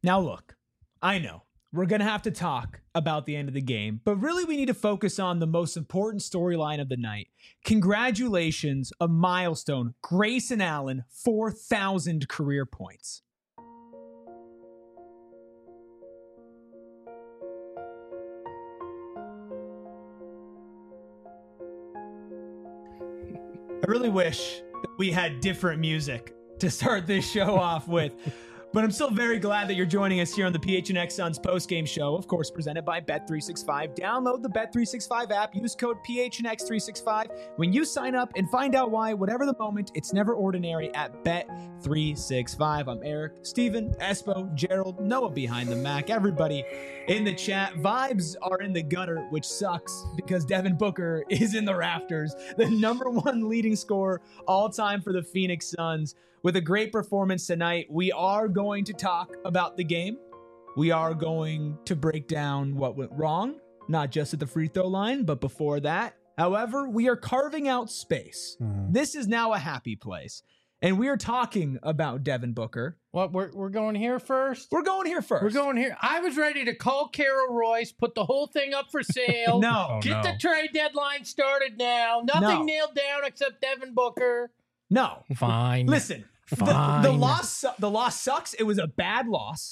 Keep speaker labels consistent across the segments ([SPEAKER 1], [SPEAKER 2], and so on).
[SPEAKER 1] Now look, I know we're going to have to talk about the end of the game, but really we need to focus on the most important storyline of the night. Congratulations, a milestone. Grayson Allen, 4,000 career points. I really wish that we had different music to start this show off with. But I'm still very glad that you're joining us here on the PHNX Suns postgame show, of course, presented by Bet365. Download the Bet365 app. Use code PHNX365 when you sign up and find out why, whatever the moment, it's never ordinary at Bet365. I'm Eric, Steven, Espo, Gerald, Noah behind the Mac, everybody in the chat. Vibes are in the gutter, which sucks because Devin Booker is in the rafters, the #1 leading scorer all time for the Phoenix Suns. With a great performance tonight, we are going to talk about the game. We are going to break down what went wrong, not just at the free throw line, but before that. However, we are carving out space. This is now a happy place. And we are talking about Devin Booker.
[SPEAKER 2] What, we're going here first?
[SPEAKER 1] We're going here first.
[SPEAKER 2] We're going here. I was ready to call Carol Royce, put the whole thing up for sale.
[SPEAKER 1] No.
[SPEAKER 2] Get the trade deadline started now. Nothing nailed down except Devin Booker.
[SPEAKER 1] No.
[SPEAKER 2] Fine.
[SPEAKER 1] Listen,
[SPEAKER 2] Fine.
[SPEAKER 1] The loss sucks. It was a bad loss.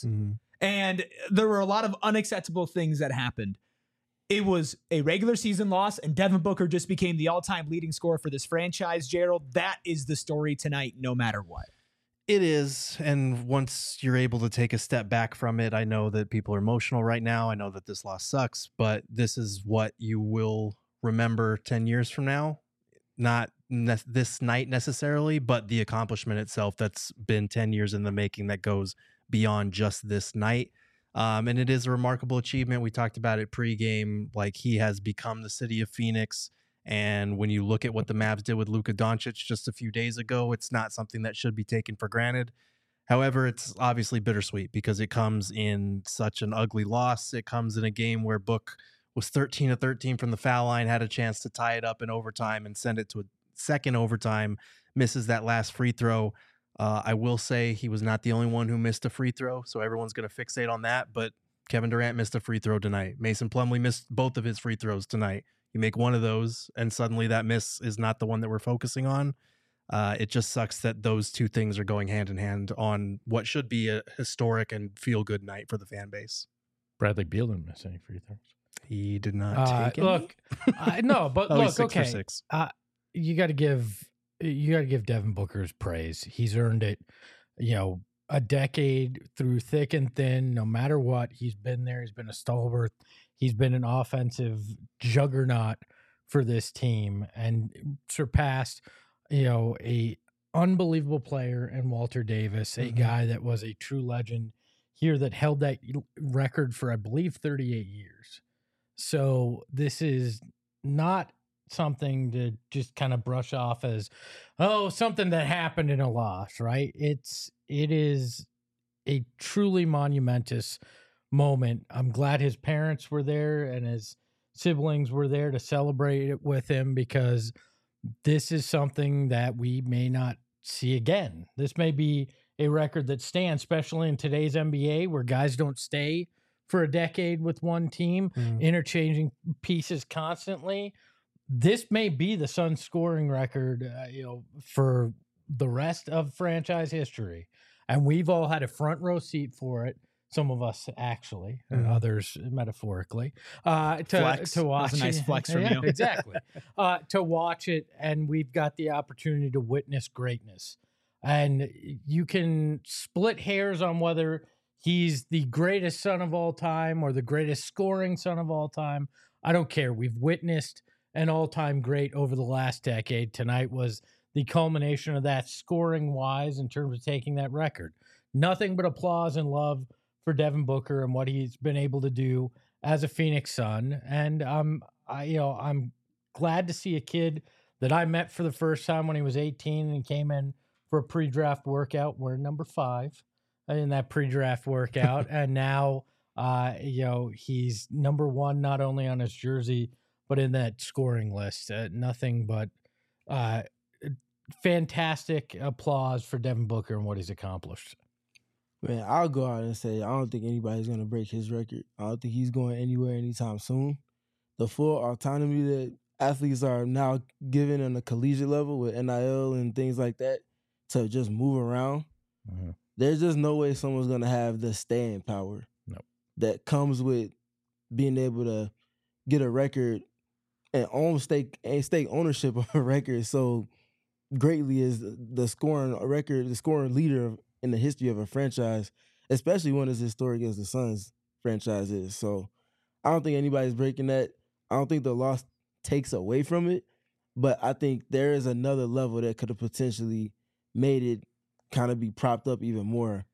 [SPEAKER 1] And there were a lot of unacceptable things that happened. It was a regular season loss, and Devin Booker just became the all-time leading scorer for this franchise. Gerald, that is the story tonight, no matter what.
[SPEAKER 3] It is, and once you're able to take a step back from it, I know that people are emotional right now. I know that this loss sucks, but this is what you will remember 10 years from now. Not this night necessarily, but the accomplishment itself that's been 10 years in the making that goes beyond just this night. And it is a remarkable achievement. We talked about it pregame, like he has become the city of Phoenix. And when you look at what the Mavs did with Luka Doncic just a few days ago, it's not something that should be taken for granted. However, it's obviously bittersweet because it comes in such an ugly loss. It comes in a game where Book was 13 of 13 from the foul line, had a chance to tie it up in overtime and send it to a second overtime, misses that last free throw. I will say he was not the only one who missed a free throw, so everyone's going to fixate on that, but Kevin Durant missed a free throw tonight. Mason Plumlee missed both of his free throws tonight. You make one of those, and suddenly that miss is not the one that we're focusing on. It just sucks that those two things are going hand in hand on what should be a historic and feel-good night for the fan base.
[SPEAKER 2] Bradley Beal didn't miss any free throws.
[SPEAKER 3] He did not take any?
[SPEAKER 2] Look, no, but
[SPEAKER 3] Oh,
[SPEAKER 2] look,
[SPEAKER 3] he's 6 for
[SPEAKER 2] okay.
[SPEAKER 3] 6.
[SPEAKER 2] You got to give Devin Booker's praise. He's earned it, a decade through thick and thin. No matter what, he's been there. He's been a stalwart. He's been an offensive juggernaut for this team and surpassed, a unbelievable player in Walter Davis, a guy that was a true legend here that held that record for, I believe, 38 years. So this is not something to just kind of brush off as, something that happened in a loss, right? It is a truly monumentous moment. I'm glad his parents were there and his siblings were there to celebrate it with him, because this is something that we may not see again. This may be a record that stands, especially in today's NBA where guys don't stay for a decade with one team, interchanging pieces constantly. This may be the Suns scoring record, for the rest of franchise history. And we've all had a front row seat for it. Some of us actually, and others metaphorically, to watch.
[SPEAKER 1] That was a nice flex from you.
[SPEAKER 2] Exactly. To watch it, and we've got the opportunity to witness greatness. And you can split hairs on whether he's the greatest son of all time or the greatest scoring son of all time. I don't care. We've witnessed an all-time great over the last decade. Tonight was the culmination of that scoring-wise in terms of taking that record. Nothing but applause and love for Devin Booker and what he's been able to do as a Phoenix Sun. And I'm glad to see a kid that I met for the first time when he was 18 and came in for a pre-draft workout. We're number 5 in that pre-draft workout. And now, he's number 1, not only on his jersey, but in that scoring list. Nothing but fantastic applause for Devin Booker and what he's accomplished.
[SPEAKER 4] Man, I'll go out and say I don't think anybody's going to break his record. I don't think he's going anywhere anytime soon. The full autonomy that athletes are now given on a collegiate level with NIL and things like that to just move around, there's just no way someone's going to have the staying power that comes with being able to get a record and own stake ownership of a record so greatly as the scoring record, the scoring leader in the history of a franchise, especially one as historic as the Suns franchise is. So I don't think anybody's breaking that. I don't think the loss takes away from it, but I think there is another level that could have potentially made it kind of be propped up even more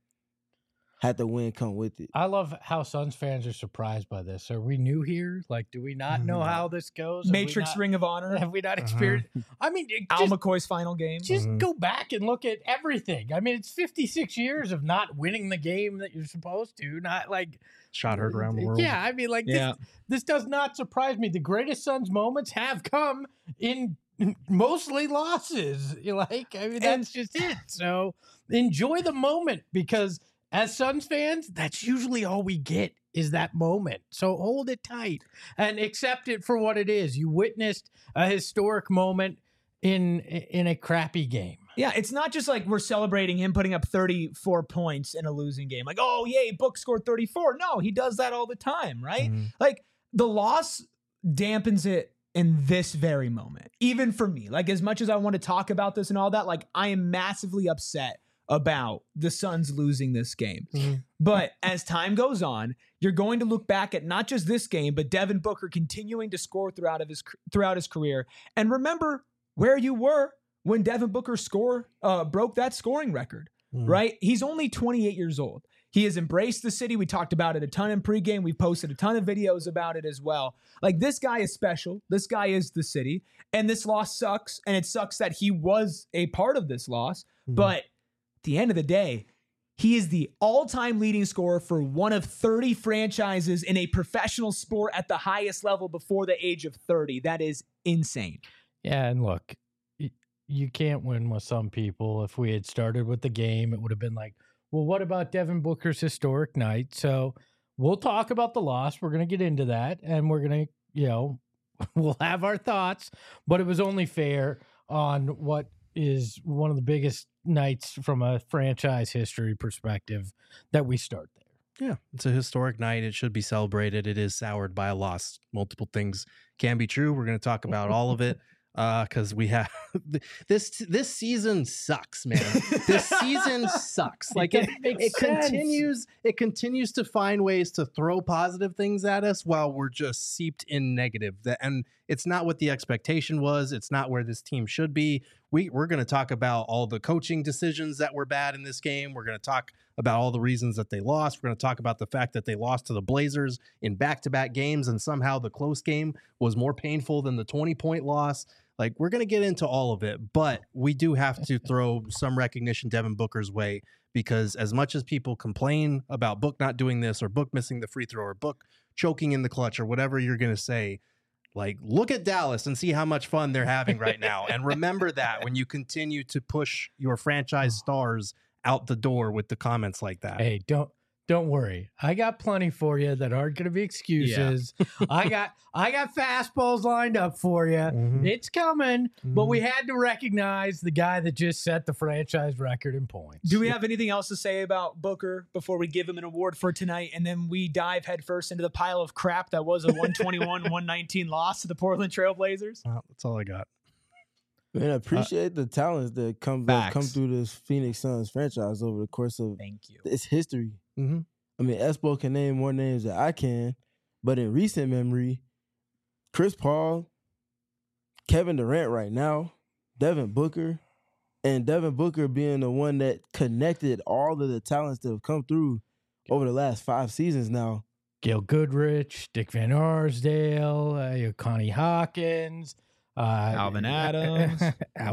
[SPEAKER 4] had the win come with it.
[SPEAKER 2] I love how Suns fans are surprised by this. Are we new here? Like, do we not know how this goes?
[SPEAKER 1] Matrix Ring of Honor.
[SPEAKER 2] Have we not experienced? I mean,
[SPEAKER 1] Al McCoy's final game.
[SPEAKER 2] Just go back and look at everything. I mean, it's 56 years of not winning the game that you're supposed to. Not like
[SPEAKER 3] shot heard around the world.
[SPEAKER 2] Yeah, I mean, like this does not surprise me. The greatest Suns moments have come in mostly losses. Like, I mean, that's just it. So enjoy the moment, because as Suns fans, that's usually all we get is that moment. So hold it tight and accept it for what it is. You witnessed a historic moment in a crappy game.
[SPEAKER 1] Yeah, it's not just like we're celebrating him putting up 34 points in a losing game. Like, oh, yay, Book scored 34. No, he does that all the time, right? Like, the loss dampens it in this very moment, even for me. Like, as much as I want to talk about this and all that, like, I am massively upset about the Suns losing this game. But as time goes on, you're going to look back at not just this game, but Devin Booker continuing to score throughout his career, and remember where you were when Devin Booker broke that scoring record, right? He's only 28 years old. He has embraced the city. We talked about it a ton in pregame. We posted a ton of videos about it as well. Like, this guy is special. This guy is the city. And this loss sucks. And it sucks that he was a part of this loss. But at the end of the day, he is the all-time leading scorer for one of 30 franchises in a professional sport at the highest level before the age of 30. That is insane.
[SPEAKER 2] Yeah, and look, you can't win with some people. If we had started with the game, it would have been like, well, what about Devin Booker's historic night? So we'll talk about the loss. We're going to get into that, and we're going to, we'll have our thoughts, but it was only fair on what is one of the biggest nights from a franchise history perspective that we start there.
[SPEAKER 3] Yeah, it's a historic night. It should be celebrated. It is soured by a loss. Multiple things can be true. We're going to talk about all of it. Because we have this season sucks, man. This season sucks. Like it continues to find ways to throw positive things at us while we're just seeped in negative. And it's not what the expectation was. It's not where this team should be. We're going to talk about all the coaching decisions that were bad in this game. We're going to talk about all the reasons that they lost. We're going to talk about the fact that they lost to the Blazers in back-to-back games, and somehow the close game was more painful than the 20-point loss. Like, we're going to get into all of it, but we do have to throw some recognition Devin Booker's way, because as much as people complain about Book not doing this, or Book missing the free throw, or Book choking in the clutch, or whatever you're going to say, like, look at Dallas and see how much fun they're having right now. And remember that when you continue to push your franchise stars out the door with the comments like that.
[SPEAKER 2] Hey, don't worry. I got plenty for you that aren't going to be excuses. Yeah. I got fastballs lined up for you. It's coming, but we had to recognize the guy that just set the franchise record in points.
[SPEAKER 1] Do we have anything else to say about Booker before we give him an award for tonight, and then we dive headfirst into the pile of crap that was a 121-119 loss to the Portland Trail Blazers?
[SPEAKER 3] That's all I got.
[SPEAKER 4] Man, I appreciate the talents that come through this Phoenix Suns franchise over the course of its history. I mean, Espo can name more names than I can, but in recent memory, Chris Paul, Kevin Durant right now, Devin Booker, and Devin Booker being the one that connected all of the talents that have come through over the last 5 seasons now.
[SPEAKER 2] Gail Goodrich, Dick Van Arsdale, Connie Hawkins,
[SPEAKER 1] Alvin Adams,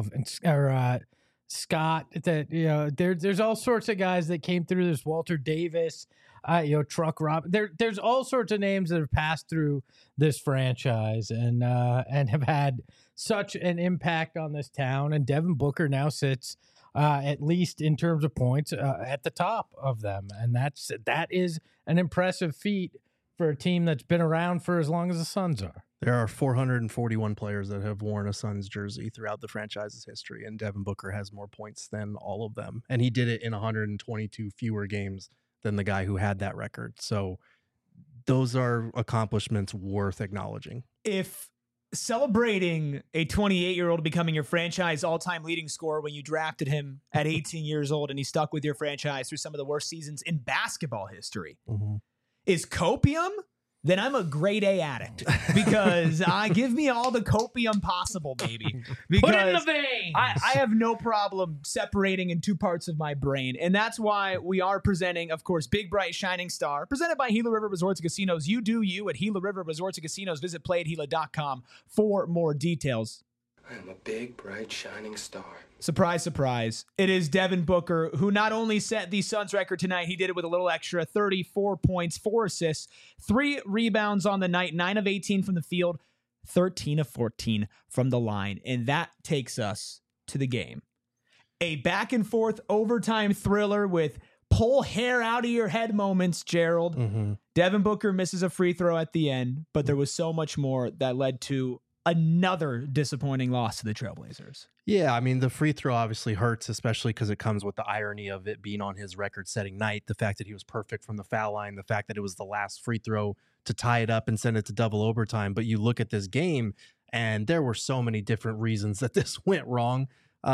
[SPEAKER 2] Scott. That there's all sorts of guys that came through this. Walter Davis, Truck Rob. There's all sorts of names that have passed through this franchise and have had such an impact on this town. And Devin Booker now sits at least in terms of points, at the top of them. And that is an impressive feat for a team that's been around for as long as the Suns are.
[SPEAKER 3] There are 441 players that have worn a Suns jersey throughout the franchise's history, and Devin Booker has more points than all of them. And he did it in 122 fewer games than the guy who had that record. So those are accomplishments worth acknowledging.
[SPEAKER 1] If celebrating a 28-year-old becoming your franchise all-time leading scorer when you drafted him at 18 years old and he stuck with your franchise through some of the worst seasons in basketball history is copium, then I'm a grade A addict because give me all the copium possible, baby. Because
[SPEAKER 2] put it in the veins.
[SPEAKER 1] I have no problem separating in two parts of my brain. And that's why we are presenting, of course, Big Bright Shining Star, presented by Gila River Resorts and Casinos. You do you at Gila River Resorts and Casinos. Visit playatgila.com for more details.
[SPEAKER 5] I am a big, bright, shining star.
[SPEAKER 1] Surprise, surprise. It is Devin Booker, who not only set the Suns record tonight, he did it with a little extra, 34 points, 4 assists, 3 rebounds on the night, 9 of 18 from the field, 13 of 14 from the line. And that takes us to the game. A back and forth overtime thriller with pull hair out of your head moments, Gerald. Devin Booker misses a free throw at the end, but there was so much more that led to another disappointing loss to the Trailblazers.
[SPEAKER 3] Yeah, I mean, the free throw obviously hurts, especially because it comes with the irony of it being on his record-setting night, the fact that he was perfect from the foul line, the fact that it was the last free throw to tie it up and send it to double overtime. But you look at this game, and there were so many different reasons that this went wrong.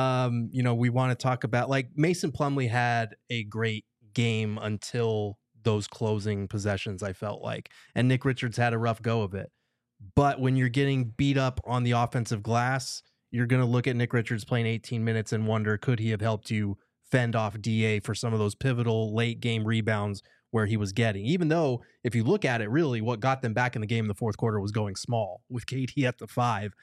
[SPEAKER 3] We want to talk about, like, Mason Plumlee had a great game until those closing possessions, I felt like. And Nick Richards had a rough go of it. But when you're getting beat up on the offensive glass, you're going to look at Nick Richards playing 18 minutes and wonder, could he have helped you fend off DA for some of those pivotal late game rebounds where he was getting? Even though, if you look at it, really what got them back in the game in the fourth quarter was going small with KD at the 5.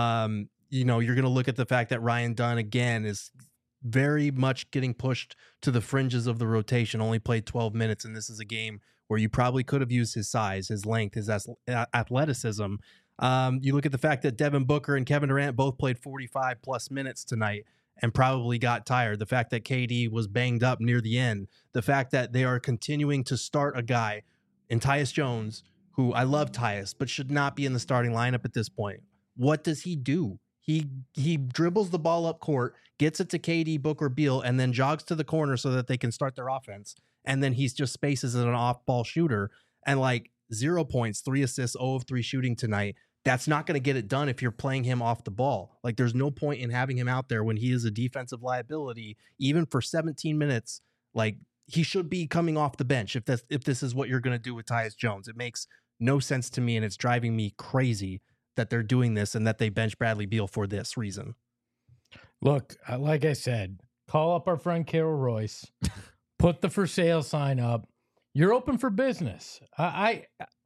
[SPEAKER 3] You're going to look at the fact that Ryan Dunn, again, is very much getting pushed to the fringes of the rotation, only played 12 minutes, and this is a game where you probably could have used his size, his length, his athleticism. You look at the fact that Devin Booker and Kevin Durant both played 45-plus minutes tonight and probably got tired. The fact that KD was banged up near the end. The fact that they are continuing to start a guy in Tyus Jones, who I love Tyus, but should not be in the starting lineup at this point. What does he do? He dribbles the ball up court, gets it to KD, Booker, Beal, and then jogs to the corner so that they can start their offense. And then he's just spaces as an off-ball shooter. And 0 points, 3 assists, 0 of 3 shooting tonight. That's not going to get it done if you're playing him off the ball. There's no point in having him out there when he is a defensive liability, even for 17 minutes. He should be coming off the bench if this is what you're going to do with Tyus Jones. It makes no sense to me, and it's driving me crazy that they're doing this and that they bench Bradley Beal for this reason.
[SPEAKER 2] Look, like I said, call up our friend Carol Royce, put the for sale sign up. You're open for business. I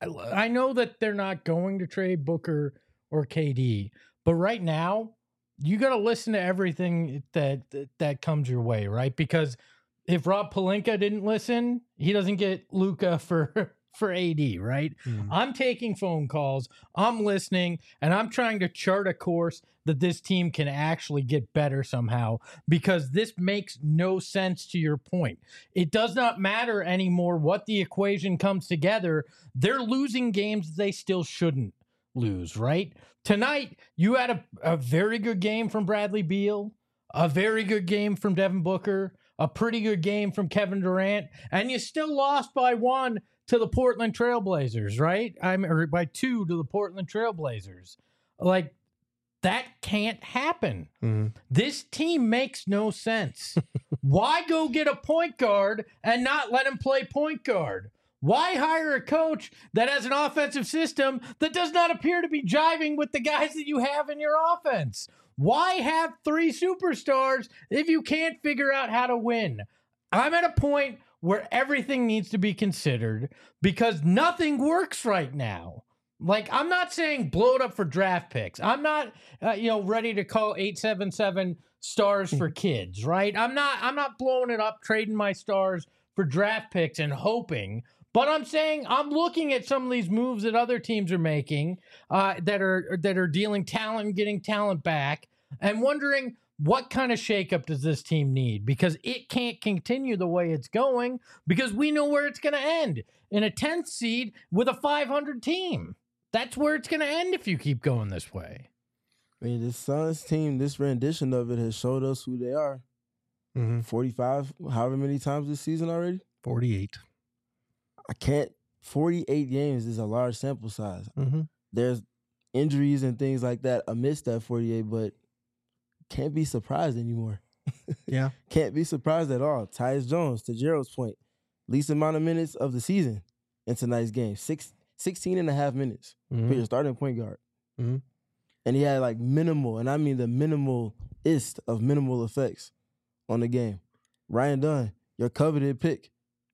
[SPEAKER 2] know that they're not going to trade Booker or KD, but right now you got to listen to everything that comes your way, right? Because if Rob Pelinka didn't listen, he doesn't get Luka for AD, right? I'm taking phone calls, I'm listening, and I'm trying to chart a course that this team can actually get better somehow, because this makes no sense to your point. It does not matter anymore what the equation comes together. They're losing games they still shouldn't lose, right? Tonight, you had a very good game from Bradley Beal, a very good game from Devin Booker, a pretty good game from Kevin Durant, and you still lost by 1 to the Portland Trailblazers, right? Or by 2 to the Portland Trailblazers. That can't happen. This team makes no sense. Why go get a point guard and not let him play point guard? Why hire a coach that has an offensive system that does not appear to be jiving with the guys that you have in your offense? Why have 3 superstars if you can't figure out how to win? I'm at a point where everything needs to be considered because nothing works right now. I'm not saying blow it up for draft picks. I'm not, ready to call 877 stars for kids, right? I'm not blowing it up, trading my stars for draft picks and hoping. But I'm saying I'm looking at some of these moves that other teams are making that are dealing talent and getting talent back, and wondering, what kind of shakeup does this team need? Because it can't continue the way it's going because we know where it's going to end in a 10th seed with a 500 team. That's where it's going to end if you keep going this way.
[SPEAKER 4] I mean, this Suns team, this rendition of it has showed us who they are. 45, however many times this season already?
[SPEAKER 3] 48.
[SPEAKER 4] 48 games is a large sample size. There's injuries and things like that amidst that 48, but can't be surprised anymore.
[SPEAKER 3] Yeah.
[SPEAKER 4] Can't be surprised at all. Tyus Jones, to Gerald's point, least amount of minutes of the season in tonight's game. 16 and a half minutes for your starting point guard. And he had like minimal, and I mean the minimalist of minimal effects on the game. Ryan Dunn, your coveted pick,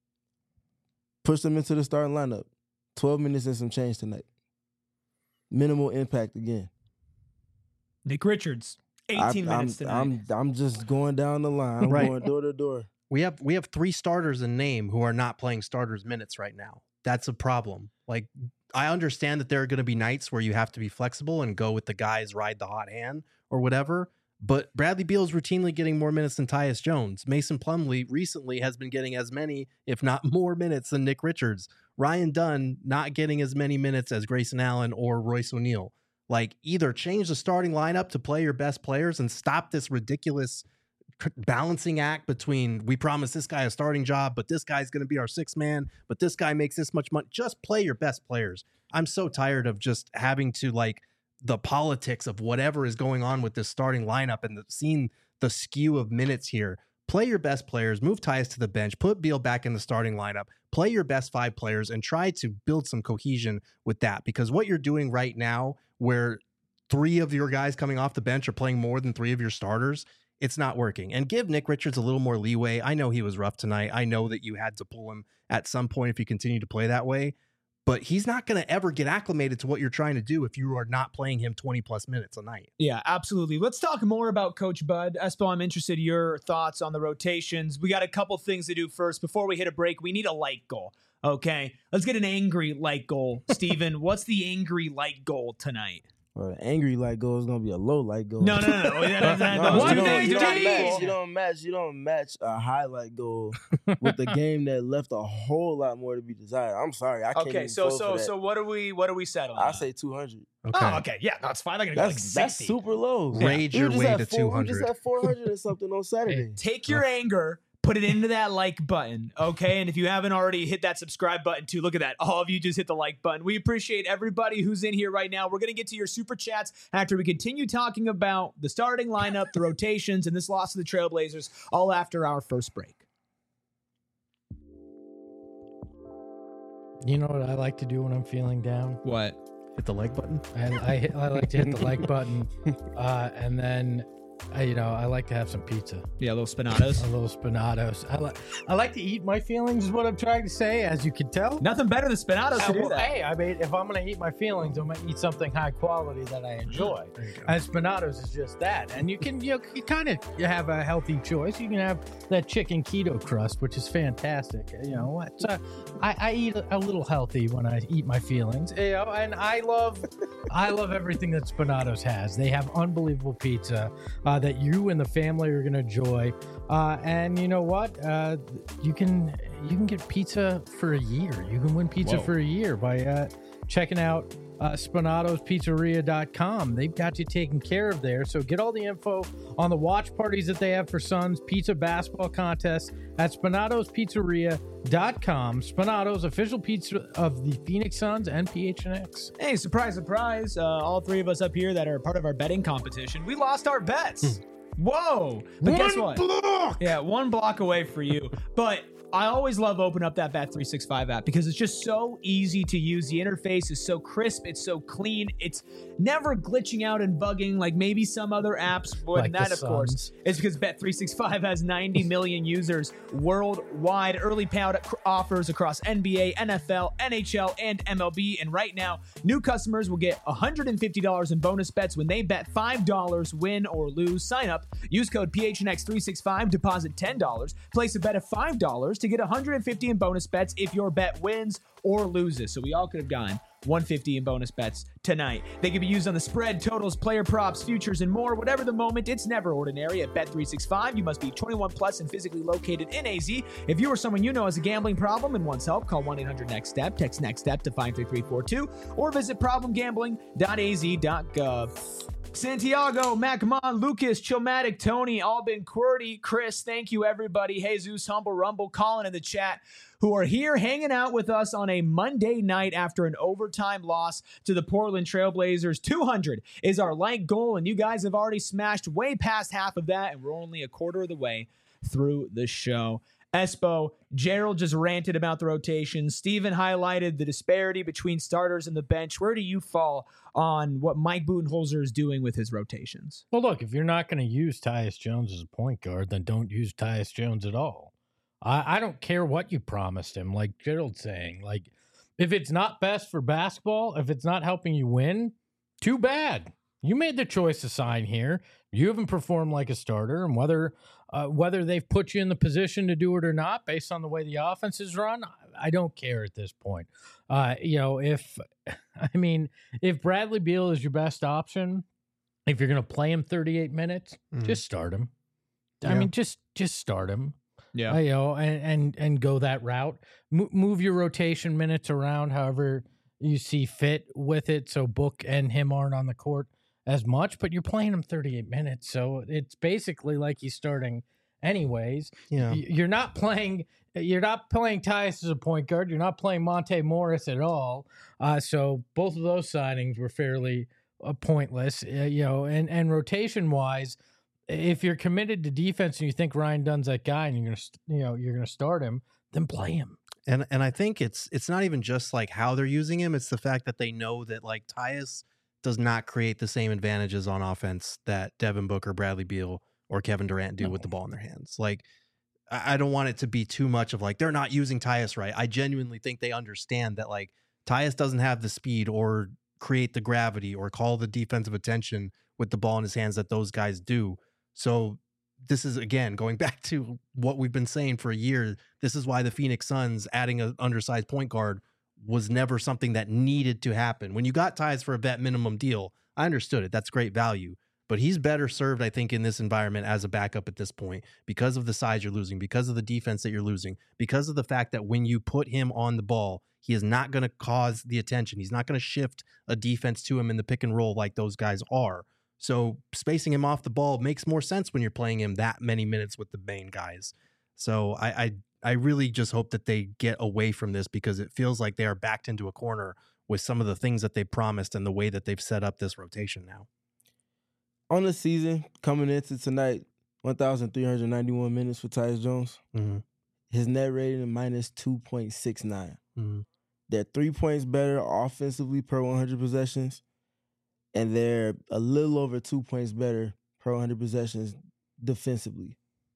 [SPEAKER 4] pushed him into the starting lineup. 12 minutes and some change tonight. Minimal impact again.
[SPEAKER 1] Nick Richards, 18 minutes tonight.
[SPEAKER 4] I'm just going down the line. I'm going door to door.
[SPEAKER 3] We have 3 starters in name who are not playing starters minutes right now. That's a problem. Like, I understand that there are going to be nights where you have to be flexible and go with the guys, ride the hot hand or whatever. But Bradley Beal is routinely getting more minutes than Tyus Jones. Mason Plumlee recently has been getting as many, if not more minutes than Nick Richards. Ryan Dunn not getting as many minutes as Grayson Allen or Royce O'Neal. Like, either change the starting lineup to play your best players and stop this ridiculous balancing act between we promise this guy a starting job, but this guy's going to be our 6th man, but this guy makes this much money. Just play your best players. I'm so tired of just having to like the politics of whatever is going on with this starting lineup and seeing the skew of minutes here. Play your best players, move Tyus to the bench, put Beal back in the starting lineup, play your best 5 players and try to build some cohesion with that. Because what you're doing right now, where 3 of your guys coming off the bench are playing more than 3 of your starters, it's not working. And give Nick Richards a little more leeway. I know he was rough tonight. I know that you had to pull him at some point if you continue to play that way. But he's not going to ever get acclimated to what you're trying to do if you are not playing him 20-plus minutes a night.
[SPEAKER 1] Yeah, absolutely. Let's talk more about Coach Bud. Espo, I'm interested in your thoughts on the rotations. We got a couple things to do first. Before we hit a break, we need a light goal. Okay, let's get an angry light goal. Steven, what's the angry light goal tonight?
[SPEAKER 4] Well, angry light goal is gonna be a low light goal.
[SPEAKER 1] No.
[SPEAKER 4] You don't match a highlight goal with the game that left a whole lot more to be desired. I'm sorry, I can't.
[SPEAKER 1] Okay, so what are we settling?
[SPEAKER 4] I say 200.
[SPEAKER 3] Okay.
[SPEAKER 1] Oh, okay, yeah, that's fine. They're gonna go like 60.
[SPEAKER 4] That's super low.
[SPEAKER 3] Rage your way to 200.
[SPEAKER 4] We just had 400 or something on Saturday.
[SPEAKER 1] Take your anger. Put it into that like button, okay? And if you haven't already, hit that subscribe button too. Look at that. All of you just hit the like button. We appreciate everybody who's in here right now. We're going to get to your super chats after we continue talking about the starting lineup, the rotations, and this loss of the Trailblazers, all after our first break.
[SPEAKER 2] You know what I like to do when I'm feeling down?
[SPEAKER 1] What?
[SPEAKER 3] Hit the like button.
[SPEAKER 2] I like to hit the like button, and then I like to have some pizza.
[SPEAKER 1] Yeah, a little spinatos.
[SPEAKER 2] A little spinatos. I like to eat my feelings is what I'm trying to say, as you can tell.
[SPEAKER 1] Nothing better than spinatos to do that.
[SPEAKER 2] Hey, I mean, if I'm going to eat my feelings, I'm going to eat something high quality that I enjoy. And spinatos is just that. And you kind of have a healthy choice. You can have that chicken keto crust, which is fantastic. I eat a little healthy when I eat my feelings. And I love everything that Spinatos has. They have unbelievable pizza that you and the family are going to enjoy. And you know what? You can get pizza for a year. You can win pizza for a year by checking out SpanatosPizzeria.com. They've got you taken care of there. So get all the info on the watch parties that they have for Suns pizza basketball contests at SpanatosPizzeria.com. Spanatos, official pizza of the Phoenix Suns and PHNX.
[SPEAKER 1] Hey, surprise, surprise. All 3 of us up here that are part of our betting competition, we lost our bets. Whoa. But guess what?
[SPEAKER 2] Block!
[SPEAKER 1] Yeah, 1 block away for you. But I always love opening up that Bet365 app because it's just so easy to use. The interface is so crisp. It's so clean. It's never glitching out and bugging like maybe some other apps would. And that, of course, is because Bet365 has 90 million users worldwide. Early payout offers across NBA, NFL, NHL, and MLB. And right now, new customers will get $150 in bonus bets when they bet $5, win or lose. Sign up. Use code PHNX365. Deposit $10. Place a bet of $5 to get $150 in bonus bets if your bet wins or loses. So we all could have gone 150 in bonus bets tonight. They can be used on the spread, totals, player props, futures, and more. Whatever the moment, it's never ordinary at Bet365. You must be 21 plus and physically located in AZ. If you or someone you know has a gambling problem and wants help, call 1-800-NEXT-STEP. Text NEXT STEP to 53342 or visit problemgambling.az.gov. Santiago, Macmon, Lucas, Chilmatic, Tony, Albin, QWERTY, Chris, thank you everybody. Jesus, Humble Rumble, Colin in the chat, who are here hanging out with us on a Monday night after an overtime loss to the Portland Trailblazers. 200 is our like goal, and you guys have already smashed way past half of that, and we're only a quarter of the way through the show. Espo, Gerald just ranted about the rotation. Steven highlighted the disparity between starters and the bench. Where do you fall on what Mike Budenholzer is doing with his rotations?
[SPEAKER 2] Well, look, if you're not going to use Tyus Jones as a point guard, then don't use Tyus Jones at all. I don't care what you promised him, like Gerald's saying. Like, if it's not best for basketball, if it's not helping you win, too bad. You made the choice to sign here. You haven't performed like a starter, and whether they've put you in the position to do it or not, based on the way the offense is run, I don't care at this point. If Bradley Beal is your best option, if you're going to play him 38 minutes, just start him. Yeah. I mean, just start him.
[SPEAKER 1] Yeah,
[SPEAKER 2] and go that route. Move your rotation minutes around however you see fit with it, so Book and him aren't on the court as much, but you're playing him 38 minutes, so it's basically like he's starting anyways.
[SPEAKER 3] Yeah,
[SPEAKER 2] you're not playing Tyus as a point guard. You're not playing Monte Morris at all. So both of those signings were fairly pointless. And rotation wise, if you're committed to defense and you think Ryan Dunn's that guy, and you're gonna start him, then play him.
[SPEAKER 3] And I think it's not even just like how they're using him; it's the fact that they know that like Tyus does not create the same advantages on offense that Devin Booker, Bradley Beal, or Kevin Durant do with the ball in their hands. Like, I don't want it to be too much of like they're not using Tyus right. I genuinely think they understand that like Tyus doesn't have the speed or create the gravity or call the defensive attention with the ball in his hands that those guys do. So this is, again, going back to what we've been saying for a year. This is why the Phoenix Suns adding an undersized point guard was never something that needed to happen. When you got Tyus for a vet minimum deal, I understood it. That's great value. But he's better served, I think, in this environment as a backup at this point because of the size you're losing, because of the defense that you're losing, because of the fact that when you put him on the ball, he is not going to cause the attention. He's not going to shift a defense to him in the pick and roll like those guys are. So spacing him off the ball makes more sense when you're playing him that many minutes with the main guys. So I really just hope that they get away from this because it feels like they are backed into a corner with some of the things that they promised and the way that they've set up this rotation now.
[SPEAKER 4] On the season, coming into tonight, 1,391 minutes for Tyus Jones.
[SPEAKER 3] Mm-hmm.
[SPEAKER 4] His net rating minus 2.69.
[SPEAKER 3] Mm-hmm.
[SPEAKER 4] They're 3 points better offensively per 100 possessions. And they're a little over 2 points better per 100 possessions defensively.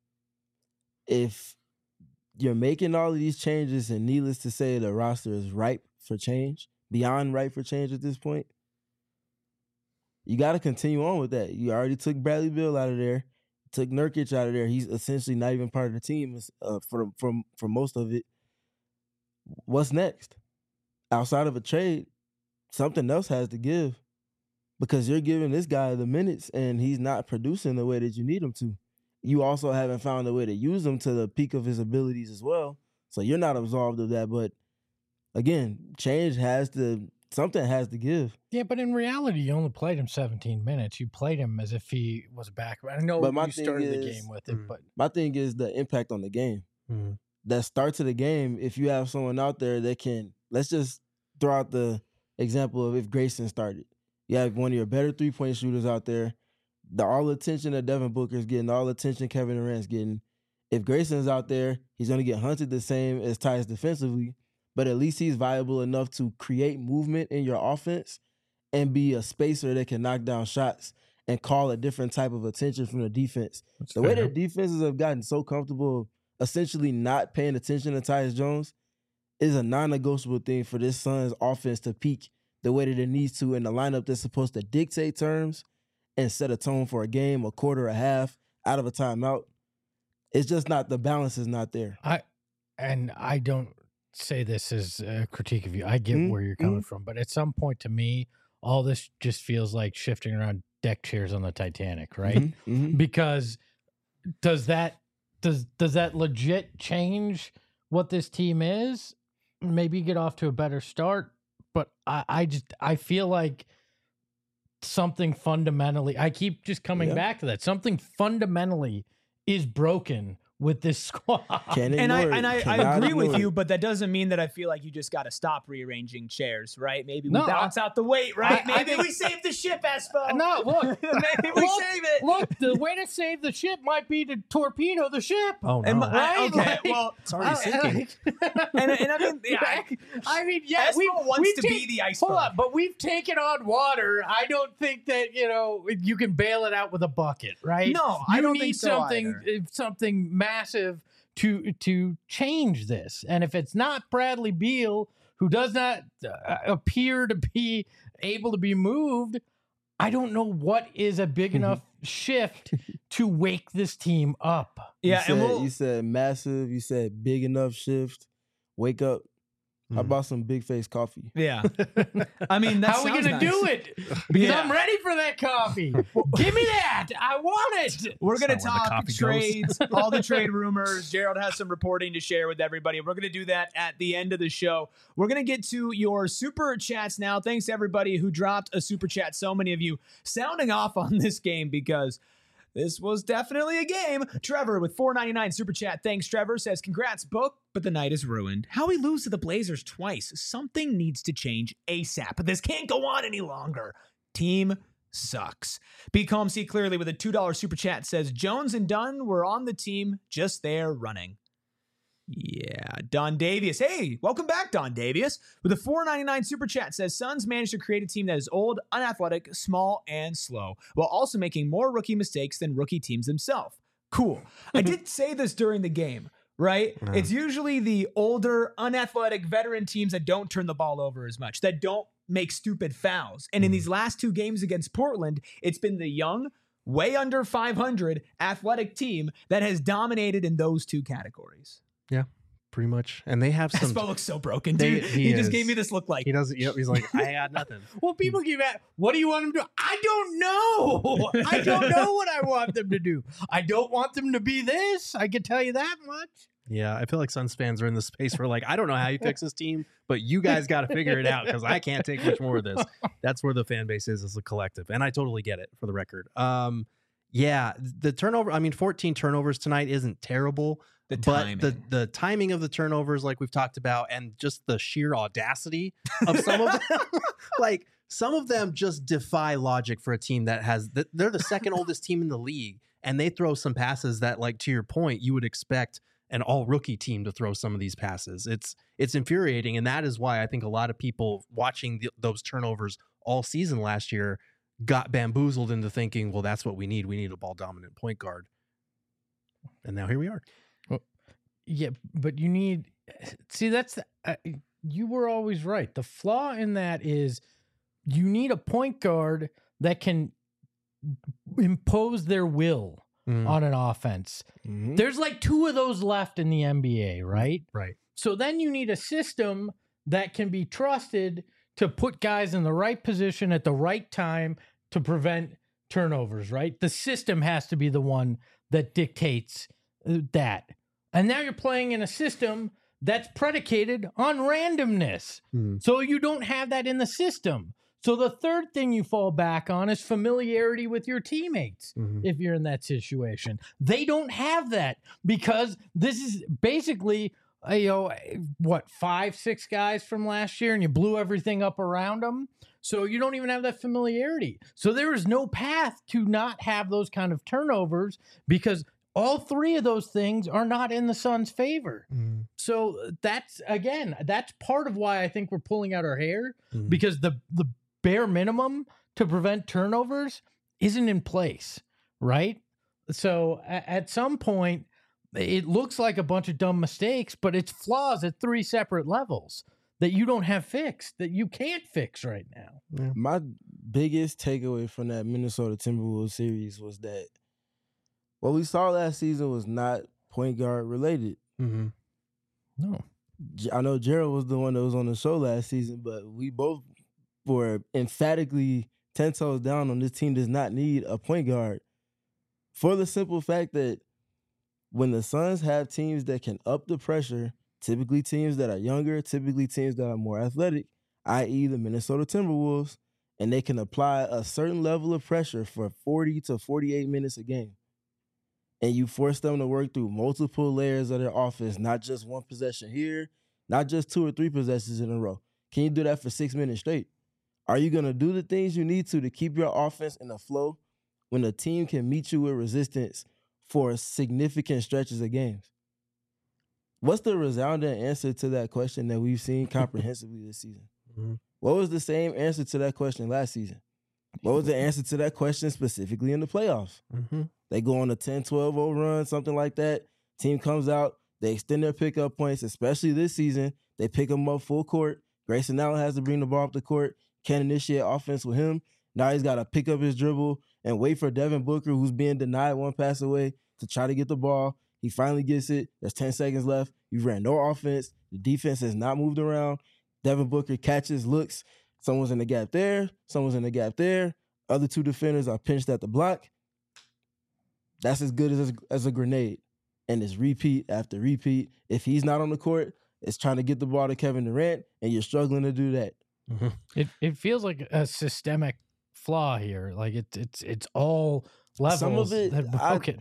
[SPEAKER 4] If you're making all of these changes, and needless to say, the roster is ripe for change, beyond ripe for change at this point, you got to continue on with that. You already took Bradley Beal out of there, took Nurkic out of there. He's essentially not even part of the team for most of it. What's next? Outside of a trade, something else has to give. Because you're giving this guy the minutes and he's not producing the way that you need him to. You also haven't found a way to use him to the peak of his abilities as well. So you're not absolved of that. But again, something has to give.
[SPEAKER 2] Yeah, but in reality, you only played him 17 minutes. You played him as if he was a back. I know you started the game with it, but
[SPEAKER 4] my thing is the impact on the game.
[SPEAKER 3] Mm-hmm.
[SPEAKER 4] That start to the game, if you have someone out there that can, let's just throw out the example of if Grayson started. You have one of your better three-point shooters out there. All the attention that Devin Booker's getting, all the attention Kevin Durant's getting. If Grayson's out there, he's going to get hunted the same as Tyus defensively, but at least he's viable enough to create movement in your offense and be a spacer that can knock down shots and call a different type of attention from the defense. The way that defenses have gotten so comfortable essentially not paying attention to Tyus Jones is a non-negotiable thing for this Suns offense to peak the way that it needs to in the lineup that's supposed to dictate terms and set a tone for a game, a quarter, a half, out of a timeout. It's just not, the balance is not there.
[SPEAKER 2] I don't say this as a critique of you. I get where you're coming from, but at some point, to me, all this just feels like shifting around deck chairs on the Titanic, right? Because does that legit change what this team is? Maybe get off to a better start, but I feel like something fundamentally, I keep just coming back to that. Something fundamentally is broken with this squad.
[SPEAKER 1] And I agree with you, but that doesn't mean that I feel like you just got to stop rearranging chairs, right? Maybe we balance out the weight, right? Maybe we save the ship, Espo.
[SPEAKER 2] No, look.
[SPEAKER 1] Maybe we save it.
[SPEAKER 2] Look, the way to save the ship might be to torpedo the ship.
[SPEAKER 3] Oh, no.
[SPEAKER 1] Right? Okay, well,
[SPEAKER 3] it's already sinking.
[SPEAKER 1] and I mean, yeah, Espo wants to be the iceberg.
[SPEAKER 2] Hold on, but we've taken on water. I don't think that, you can bail it out with a bucket, right?
[SPEAKER 1] No, I don't think so
[SPEAKER 2] something massive to change this. And if it's not Bradley Beal, who does not appear to be able to be moved, I don't know what is a big enough shift to wake this team up.
[SPEAKER 1] Yeah,
[SPEAKER 4] you said massive, you said big enough shift, wake up. I bought some Big Face coffee.
[SPEAKER 1] Yeah. I mean,
[SPEAKER 2] how are we going to do it? Because I'm ready for that coffee. Give me that. I want it.
[SPEAKER 1] We're going to talk trades, all the trade rumors. Gerald has some reporting to share with everybody. We're going to do that at the end of the show. We're going to get to your super chats now. Thanks to everybody who dropped a super chat. So many of you sounding off on this game because this was definitely a game. Trevor with $4.99 super chat. Thanks, Trevor. Says, congrats, Book, but the night is ruined. How we lose to the Blazers twice. Something needs to change ASAP. But this can't go on any longer. Team sucks. Be calm, see clearly with a $2 super chat. Says, Jones and Dunn were on the team, just there running. Yeah, Don Davius. Hey, welcome back, Don Davius. With a $4.99 super chat, says Suns managed to create a team that is old, unathletic, small, and slow, while also making more rookie mistakes than rookie teams themselves. Cool. I did say this during the game, right? It's usually the older, unathletic veteran teams that don't turn the ball over as much, that don't make stupid fouls. And in these last two games against Portland, it's been the young, way under 500 athletic team that has dominated in those two categories.
[SPEAKER 3] Yeah, pretty much. And they have some.
[SPEAKER 1] Espo looks so broken, dude. He just gave me this look like.
[SPEAKER 3] He doesn't. Yep. He's like, I got nothing.
[SPEAKER 2] Well, people keep at, what do you want them to do? I don't know. I don't know what I want them to do. I don't want them to be this. I can tell you that much.
[SPEAKER 3] Yeah, I feel like Suns fans are in this space where like, I don't know how you fix this team, but you guys got to figure it out because I can't take much more of this. That's where the fan base is as a collective. And I totally get it, for the record. Yeah, the turnover, 14 turnovers tonight isn't terrible. The timing of the turnovers, like we've talked about, and just the sheer audacity of some of them, like some of them just defy logic for a team that has, they're the second oldest team in the league, and they throw some passes that, like, to your point, you would expect an all rookie team to throw some of these passes. It's infuriating, and that is why I think a lot of people watching those turnovers all season last year got bamboozled into thinking, well, that's what we need. We need a ball dominant point guard. And now here we are.
[SPEAKER 2] Well, yeah, but you need, see, that's, you were always right. The flaw in that is you need a point guard that can impose their will on an offense. There's like two of those left in the NBA, right?
[SPEAKER 3] Right.
[SPEAKER 2] So then you need a system that can be trusted to put guys in the right position at the right time to prevent turnovers, right? The system has to be the one that dictates that. And now you're playing in a system that's predicated on randomness. So you don't have that in the system. So the third thing you fall back on is familiarity with your teammates if you're in that situation. They don't have that because this is basically, 5-6 guys from last year, and you blew everything up around them. So you don't even have that familiarity. So there is no path to not have those kind of turnovers because all three of those things are not in the Suns' favor. So that's part of why I think we're pulling out our hair because the bare minimum to prevent turnovers isn't in place, right? So at some point, it looks like a bunch of dumb mistakes, but it's flaws at three separate levels that you don't have fixed, that you can't fix right now.
[SPEAKER 4] My biggest takeaway from that Minnesota Timberwolves series was that what we saw last season was not point guard related.
[SPEAKER 2] No.
[SPEAKER 4] I know Gerald was the one that was on the show last season, but we both were emphatically 10 toes down on this team does not need a point guard. For the simple fact that when the Suns have teams that can up the pressure, typically teams that are younger, typically teams that are more athletic, i.e. the Minnesota Timberwolves, and they can apply a certain level of pressure for 40 to 48 minutes a game. And you force them to work through multiple layers of their offense, not just one possession here, not just 2 or 3 possessions in a row. Can you do that for 6 minutes straight? Are you going to do the things you need to keep your offense in a flow when a team can meet you with resistance for significant stretches of games? What's the resounding answer to that question that we've seen comprehensively this season?
[SPEAKER 3] Mm-hmm.
[SPEAKER 4] What was the same answer to that question last season? What was the answer to that question specifically in the playoffs?
[SPEAKER 3] Mm-hmm.
[SPEAKER 4] They go on a 10-12-0 run, something like that. Team comes out. They extend their pickup points, especially this season. They pick them up full court. Grayson Allen has to bring the ball up the court. Can't initiate offense with him. Now he's got to pick up his dribble and wait for Devin Booker, who's being denied one pass away, to try to get the ball. He finally gets it. There's 10 seconds left. You ran no offense. The defense has not moved around. Devin Booker catches, looks. Someone's in the gap there. Someone's in the gap there. Other 2 defenders are pinched at the block. That's as good as a grenade. And it's repeat after repeat. If he's not on the court, it's trying to get the ball to Kevin Durant, and you're struggling to do that.
[SPEAKER 3] Mm-hmm.
[SPEAKER 2] It feels like a systemic flaw here. Like it's all levels.
[SPEAKER 4] Some of it,
[SPEAKER 2] that broken.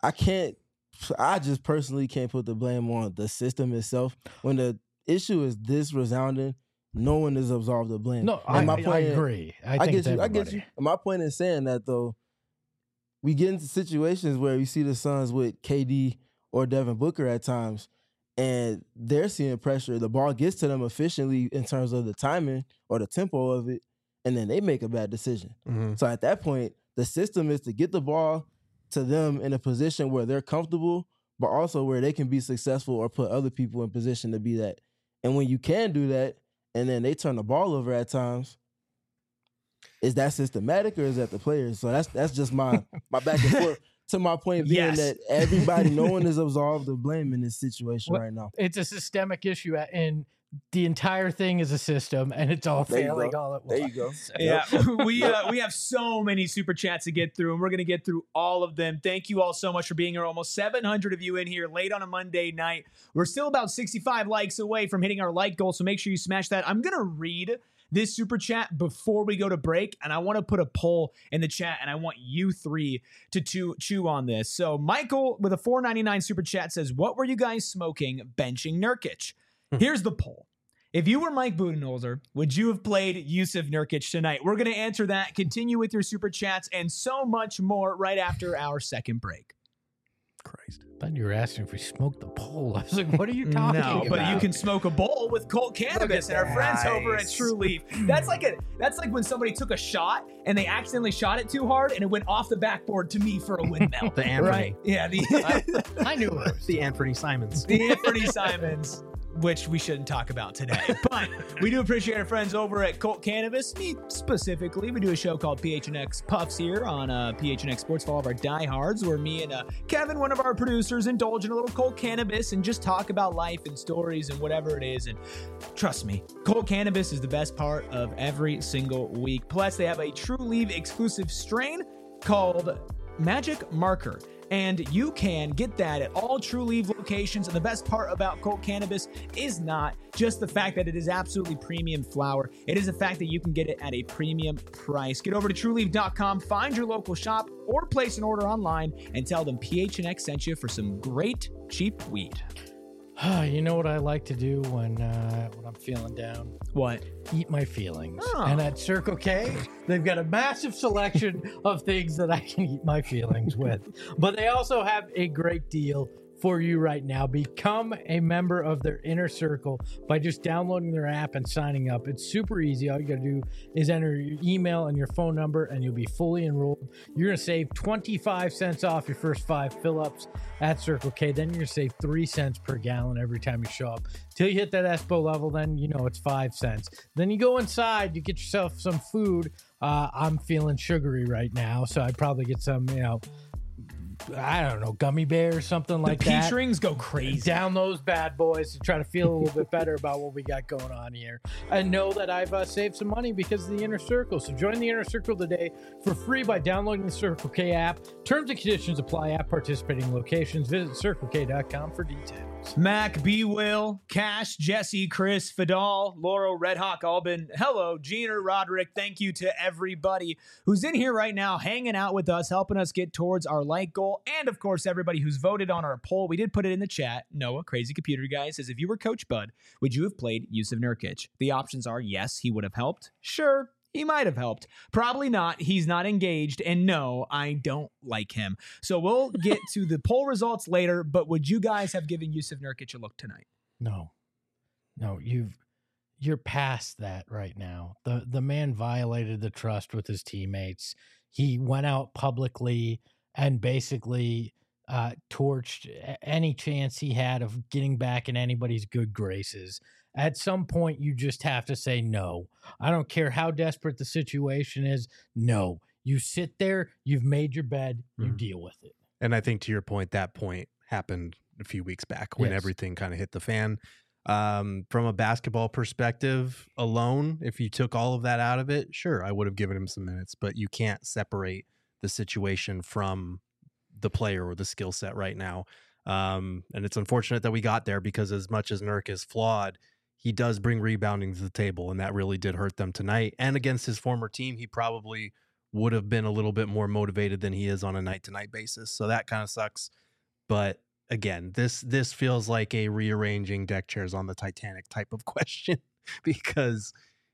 [SPEAKER 4] I just personally can't put the blame on the system itself. When the issue is this resounding, no one is absolved of blame.
[SPEAKER 2] No, I agree. I get you.
[SPEAKER 4] My point in saying that, though, we get into situations where we see the Suns with KD or Devin Booker at times, and they're seeing pressure. The ball gets to them efficiently in terms of the timing or the tempo of it, and then they make a bad decision.
[SPEAKER 3] Mm-hmm.
[SPEAKER 4] So at that point, the system is to get the ball to them in a position where they're comfortable, but also where they can be successful or put other people in position to be that. And when you can do that, and then they turn the ball over at times, is that systematic or is that the players? So that's just my back and forth to my point being that everybody, no one is absolved of blame in this situation right now.
[SPEAKER 2] It's a systemic issue, and the entire thing is a system, and it's all failing all at once.
[SPEAKER 4] There you go.
[SPEAKER 1] Yeah, we have so many super chats to get through, and we're going to get through all of them. Thank you all so much for being here. Almost 700 of you in here late on a Monday night. We're still about 65 likes away from hitting our like goal, so make sure you smash that. I'm going to read this super chat before we go to break, and I want to put a poll in the chat, and I want you 3 to chew on this. So Michael with a $4.99 super chat says, what were you guys smoking benching Nurkic? Here's the poll. If you were Mike Budenholzer, would you have played Yusuf Nurkic tonight? We're going to answer that, continue with your super chats, and so much more right after our second break.
[SPEAKER 3] Christ.
[SPEAKER 2] I thought you were asking if we smoked the pole. I was like, what are you talking about?
[SPEAKER 1] No, but you can smoke a bowl with Colt Cannabis and our friends over at True Leaf. That's like when somebody took a shot and they accidentally shot it too hard and it went off the backboard to me for a windmill.
[SPEAKER 3] The Anthony.
[SPEAKER 1] Right? Yeah,
[SPEAKER 2] I knew it was.
[SPEAKER 3] The Anthony Simons.
[SPEAKER 1] The Anthony Simons, which we shouldn't talk about today. But we do appreciate our friends over at Colt Cannabis. Me specifically, we do a show called PHNX Puffs here on PHNX Sports for all of our diehards, where me and Kevin, one of our producers, indulge in a little Colt Cannabis and just talk about life and stories and whatever it is. And trust me, Colt Cannabis is the best part of every single week. Plus, they have a True Leaf exclusive strain called Magic Marker. And you can get that at all True Leaf locations. And the best part about Colt Cannabis is not just the fact that it is absolutely premium flower. It is the fact that you can get it at a premium price. Get over to TrueLeaf.com, find your local shop, or place an order online and tell them PHNX sent you for some great cheap weed.
[SPEAKER 2] You know what I like to do when I'm feeling down?
[SPEAKER 1] What?
[SPEAKER 2] Eat my feelings.
[SPEAKER 1] Oh.
[SPEAKER 2] And at Circle K, they've got a massive selection of things that I can eat my feelings with. But they also have a great deal for you right now. Become a member of their inner circle by just downloading their app and signing up. It's super easy. All you got to do is enter your email and your phone number, and you'll be fully enrolled. You're going to save 25 cents off your first 5 fill-ups at Circle K. Then you're going to save 3 cents per gallon every time you show up. Till you hit that ESPO level, then you know it's 5 cents. Then you go inside, you get yourself some food. I'm feeling sugary right now, so I'd probably get some, I don't know, gummy bear or something like
[SPEAKER 1] the
[SPEAKER 2] that.
[SPEAKER 1] peach rings go crazy.
[SPEAKER 2] Down those bad boys to try to feel a little bit better about what we got going on here. And know that I've saved some money because of the Inner Circle. So join the Inner Circle today for free by downloading the Circle K app. Terms and conditions apply at participating locations. Visit CircleK.com for details.
[SPEAKER 1] Mac, B. Will, Cash, Jesse, Chris, Fidal, Laurel, Redhawk, Albin. Hello, Jeaner, Roderick. Thank you to everybody who's in here right now, hanging out with us, helping us get towards our like goal. And of course, everybody who's voted on our poll. We did put it in the chat. Noah, Crazy Computer Guy, says, if you were Coach Bud, would you have played Yusuf Nurkic? The options are yes, he would have helped. Sure, he might have helped. Probably not. He's not engaged. And no, I don't like him. So we'll get to the poll results later. But would you guys have given Yusuf Nurkic a look tonight?
[SPEAKER 2] No, you're past that right now. The man violated the trust with his teammates. He went out publicly and basically torched any chance he had of getting back in anybody's good graces. At some point, you just have to say no. I don't care how desperate the situation is. No, you sit there, you've made your bed, you deal with it.
[SPEAKER 3] And I think to your point, that point happened a few weeks back when
[SPEAKER 2] Yes.
[SPEAKER 3] everything kind of hit the fan. From a basketball perspective alone, if you took all of that out of it, sure, I would have given him some minutes, but you can't separate the situation from the player or the skill set right now. And it's unfortunate that we got there because as much as Nurk is flawed, he does bring rebounding to the table, and that really did hurt them tonight. And against his former team, he probably would have been a little bit more motivated than he is on a night-to-night basis. So that kind of sucks. But again, this feels like a rearranging deck chairs on the Titanic type of question because,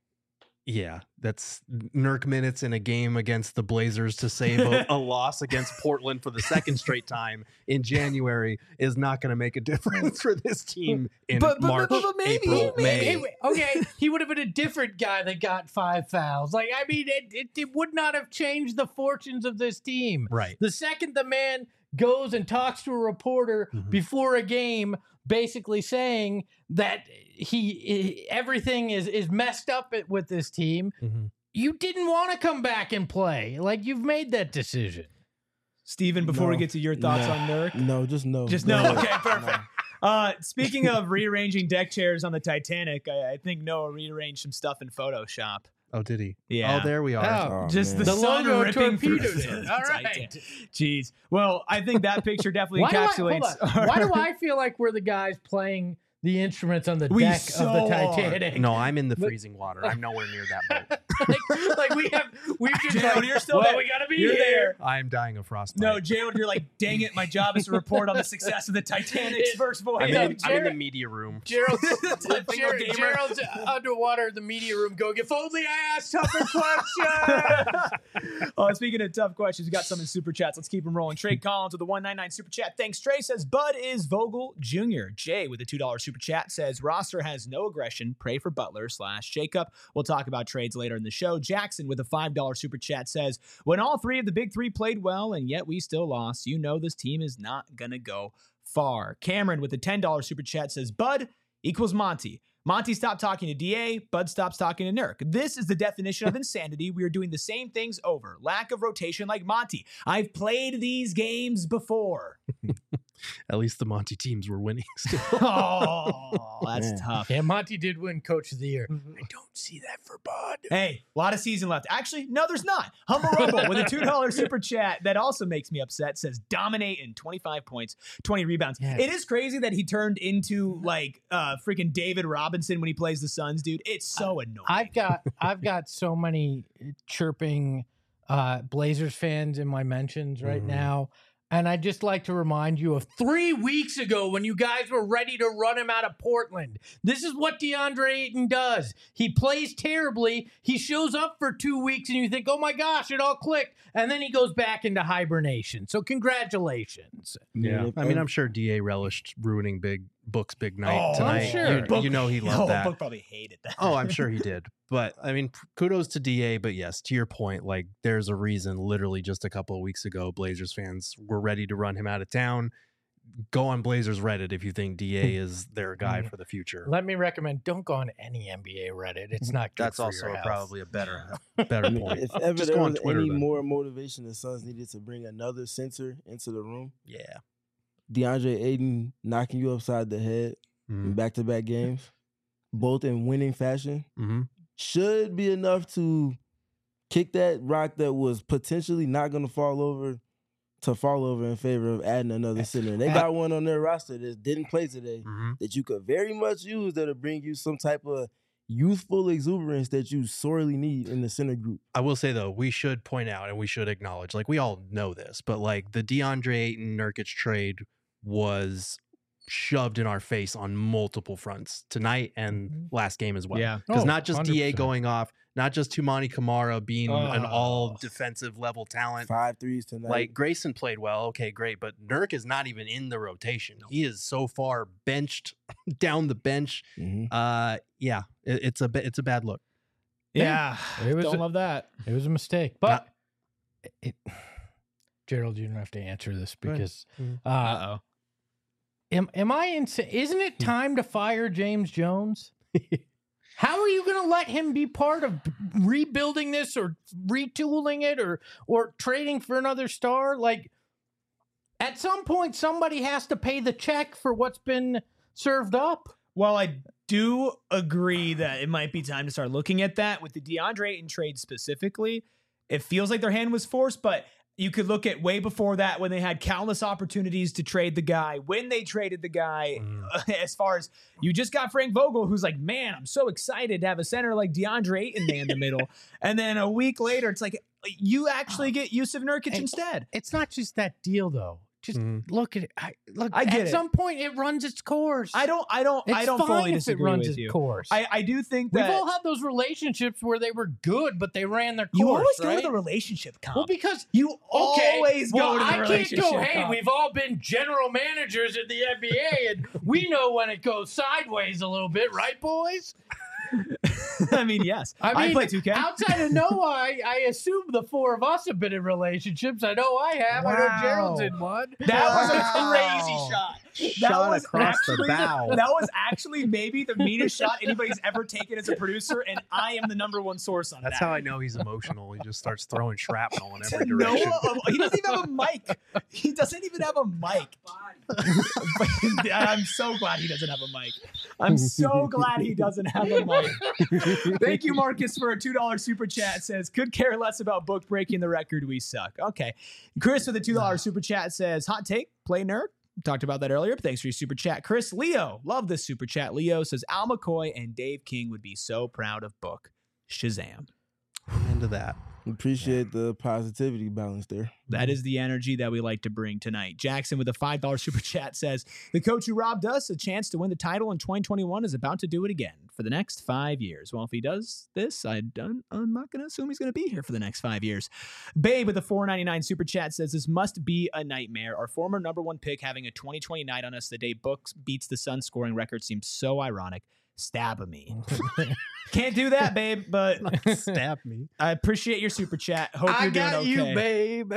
[SPEAKER 3] yeah, that's Nurk minutes in a game against the Blazers to save a loss against Portland for the second straight time in January is not going to make a difference for this team in March,
[SPEAKER 1] maybe,
[SPEAKER 3] April, May.
[SPEAKER 2] Okay, he would have been a different guy that got 5 fouls. Like, I mean, it would not have changed the fortunes of this team.
[SPEAKER 3] Right.
[SPEAKER 2] The second the man goes and talks to a reporter before a game, basically saying that everything is messed up with this team, you didn't want to come back and play. Like, you've made that decision.
[SPEAKER 1] Steven, before we
[SPEAKER 4] No.
[SPEAKER 1] get to your thoughts
[SPEAKER 4] No.
[SPEAKER 1] on Nurk.
[SPEAKER 4] No, just no.
[SPEAKER 1] Just
[SPEAKER 4] Go
[SPEAKER 1] no.
[SPEAKER 4] ahead.
[SPEAKER 1] Okay, perfect. Speaking of rearranging deck chairs on the Titanic, I think Noah rearranged some stuff in Photoshop.
[SPEAKER 3] Oh, did he?
[SPEAKER 1] Yeah.
[SPEAKER 3] Oh, there we are.
[SPEAKER 4] Oh,
[SPEAKER 1] Just
[SPEAKER 4] man.
[SPEAKER 1] the
[SPEAKER 2] The
[SPEAKER 1] sun
[SPEAKER 2] logo
[SPEAKER 1] ripping through
[SPEAKER 2] torpedoed
[SPEAKER 1] the
[SPEAKER 2] it. All right.
[SPEAKER 1] Titan. Jeez. Well, I think that picture definitely
[SPEAKER 2] Why
[SPEAKER 1] encapsulates.
[SPEAKER 2] do I feel like we're the guys playing the instruments on the
[SPEAKER 1] We
[SPEAKER 2] deck
[SPEAKER 1] so
[SPEAKER 2] of the
[SPEAKER 1] are.
[SPEAKER 2] Titanic?
[SPEAKER 3] No, I'm in the freezing water. I'm nowhere near that boat.
[SPEAKER 2] like we've just
[SPEAKER 1] Jared,
[SPEAKER 2] like,
[SPEAKER 1] you're still
[SPEAKER 2] well,
[SPEAKER 1] there.
[SPEAKER 2] we gotta be
[SPEAKER 1] You're
[SPEAKER 2] here.
[SPEAKER 1] there.
[SPEAKER 3] I'm dying of frostbite.
[SPEAKER 1] No, Jared, you're like, dang it, my job is to report on the success of the Titanic's first voyage.
[SPEAKER 3] I'm in,
[SPEAKER 2] No,
[SPEAKER 3] I'm in the
[SPEAKER 2] Jared-
[SPEAKER 3] media room.
[SPEAKER 2] Gerald's,
[SPEAKER 1] Typing on gamer.
[SPEAKER 2] Gerald's underwater in the media room going, if only I asked tougher questions.
[SPEAKER 1] Speaking of tough questions, we got some in super chats. Let's keep them rolling. Trey Collins with the 199 super chat. Thanks, Trey. Says Bud is Vogel Jr. Jay with the $2 super chat says roster has no aggression. Pray for Butler / Jacob. We'll talk about trades later in the show. Jackson with a $5 super chat says when all three of the big three played well and yet we still lost, you know this team is not gonna go far. Cameron with the $10 super chat says Bud equals Monty. Monty stopped talking to DA, Bud stops talking to Nurk. This is the definition of insanity. We are doing the same things over. Lack of rotation like Monty. I've played these games before.
[SPEAKER 3] At least the Monty teams were winning still.
[SPEAKER 1] Oh, that's
[SPEAKER 4] Man.
[SPEAKER 1] tough.
[SPEAKER 2] Yeah, Monty did win Coach of the Year. I don't see that for Bud.
[SPEAKER 1] Hey, a lot of season left. Actually, no, there's not. Humble Rumble with a $2 super chat that also makes me upset. Says dominate in 25 points, 20 rebounds.
[SPEAKER 2] Yeah.
[SPEAKER 1] It is crazy that he turned into like freaking David Robinson when he plays the Suns, dude. It's so annoying.
[SPEAKER 2] I've got so many chirping Blazers fans in my mentions right now. And I'd just like to remind you of 3 weeks ago when you guys were ready to run him out of Portland. This is what DeAndre Ayton does. He plays terribly. He shows up for 2 weeks and you think, oh my gosh, it all clicked. And then he goes back into hibernation. So congratulations.
[SPEAKER 3] Yeah. I mean, I'm sure DA relished ruining big night tonight.
[SPEAKER 2] I'm sure.
[SPEAKER 3] You know he loved that.
[SPEAKER 1] Book probably hated that.
[SPEAKER 3] Oh, I'm sure he did. But I mean, kudos to DA. But yes, to your point, like there's a reason literally just a couple of weeks ago, Blazers fans were ready to run him out of town. go on Blazers Reddit if you think DA is their guy for the future.
[SPEAKER 2] Let me recommend, don't go on any NBA Reddit. It's not good
[SPEAKER 3] That's
[SPEAKER 2] for
[SPEAKER 3] also
[SPEAKER 2] your health.
[SPEAKER 3] probably a better
[SPEAKER 4] I mean,
[SPEAKER 3] point.
[SPEAKER 4] if ever
[SPEAKER 3] Just
[SPEAKER 4] there
[SPEAKER 3] go on
[SPEAKER 4] was
[SPEAKER 3] Twitter
[SPEAKER 4] any
[SPEAKER 3] then.
[SPEAKER 4] more motivation the Suns needed to bring another center into the room,
[SPEAKER 3] Yeah.
[SPEAKER 4] DeAndre Ayton knocking you upside the head in back-to-back games, both in winning fashion, should be enough to kick that rock that was potentially not going to fall over in favor of adding another center. And they got one on their roster that didn't play today that you could very much use that'll bring you some type of youthful exuberance that you sorely need in the center group.
[SPEAKER 3] I will say, though, we should point out and we should acknowledge, like, we all know this, but, like, the DeAndre Ayton Nurkic trade was shoved in our face on multiple fronts tonight and last game as well.
[SPEAKER 1] Yeah.
[SPEAKER 3] Because
[SPEAKER 2] Oh,
[SPEAKER 3] not just
[SPEAKER 2] 100%.
[SPEAKER 3] DA going off, not just Tumani Kamara being an all defensive level talent.
[SPEAKER 4] 5 threes tonight.
[SPEAKER 3] Like, Grayson played well, okay, great, but Nurk is not even in the rotation. He is so far benched down the bench. Yeah, it's a bad look.
[SPEAKER 1] Yeah.
[SPEAKER 2] It was
[SPEAKER 1] Don't
[SPEAKER 2] a-
[SPEAKER 1] love that.
[SPEAKER 2] It was a mistake, but Gerald, you don't have to answer this because
[SPEAKER 1] Uh-oh.
[SPEAKER 2] am I insane? Isn't it time to fire James Jones? How are you going to let him be part of rebuilding this or retooling it or trading for another star? Like, at some point, somebody has to pay the check for what's been served up.
[SPEAKER 1] Well, I do agree that it might be time to start looking at that with the DeAndre Ayton trade specifically. It feels like their hand was forced, but you could look at way before that when they had countless opportunities to trade the guy, when they traded the guy, as far as you just got Frank Vogel, who's like, man, I'm so excited to have a center like DeAndre Ayton in the middle. And then a week later, it's like, you actually get Yusuf Nurkic instead.
[SPEAKER 2] It's not just that deal, though. Just look at it. I
[SPEAKER 1] get
[SPEAKER 2] at
[SPEAKER 1] it.
[SPEAKER 2] some point, it runs its course.
[SPEAKER 1] I don't
[SPEAKER 2] It's
[SPEAKER 1] fully
[SPEAKER 2] fine if it
[SPEAKER 1] disagree
[SPEAKER 2] runs
[SPEAKER 1] with
[SPEAKER 2] its
[SPEAKER 1] you.
[SPEAKER 2] course.
[SPEAKER 1] I do think
[SPEAKER 2] We've
[SPEAKER 1] that
[SPEAKER 2] all had those relationships where they were good, but they ran their course.
[SPEAKER 1] you always go
[SPEAKER 2] right?
[SPEAKER 1] to the relationship comp.
[SPEAKER 2] Well, because
[SPEAKER 1] you always go to the
[SPEAKER 2] I
[SPEAKER 1] relationship
[SPEAKER 2] can't go, hey,
[SPEAKER 1] comp.
[SPEAKER 2] we've all been general managers in the NBA, and we know when it goes sideways a little bit, right, boys?
[SPEAKER 1] I mean, yes.
[SPEAKER 2] I mean,
[SPEAKER 1] play 2K.
[SPEAKER 2] outside of Noah, I assume the four of us have been in relationships. I know I have. I know Gerald's in one.
[SPEAKER 1] That was a crazy shot.
[SPEAKER 3] Shot across the bow.
[SPEAKER 1] That was actually maybe the meanest shot anybody's ever taken as a producer, and I am the number one source on
[SPEAKER 3] That's
[SPEAKER 1] that.
[SPEAKER 3] how I know he's emotional. He just starts throwing shrapnel in every
[SPEAKER 1] Noah,
[SPEAKER 3] direction.
[SPEAKER 1] he doesn't even have a mic. He doesn't even have a mic. I'm so glad he doesn't have a mic. I'm so glad he doesn't have a mic. Thank you, Marcus, for a $2 super chat. Says, could care less about book breaking the record. We suck. Okay. Chris with a $2 super chat says, hot take, play nerd. Talked about that earlier, but thanks for your super chat. Chris Leo, love this super chat. Leo says, Al McCoy and Dave King would be so proud of book. Shazam.
[SPEAKER 3] I'm into that.
[SPEAKER 4] Appreciate the positivity balance there.
[SPEAKER 1] That is the energy that we like to bring tonight. Jackson with a $5 super chat says, the coach who robbed us a chance to win the title in 2021 is about to do it again for the next 5 years. Well, if he does this, I'm not going to assume he's going to be here for the next 5 years. Babe with a $4.99 super chat says, this must be a nightmare. Our former number one pick having a 2020 night on us the day Books beats the Suns scoring record seems so ironic. Stab me. Can't do that, babe, but
[SPEAKER 3] Stab me.
[SPEAKER 1] I appreciate your super chat. Hope you're doing okay.
[SPEAKER 2] you, babe.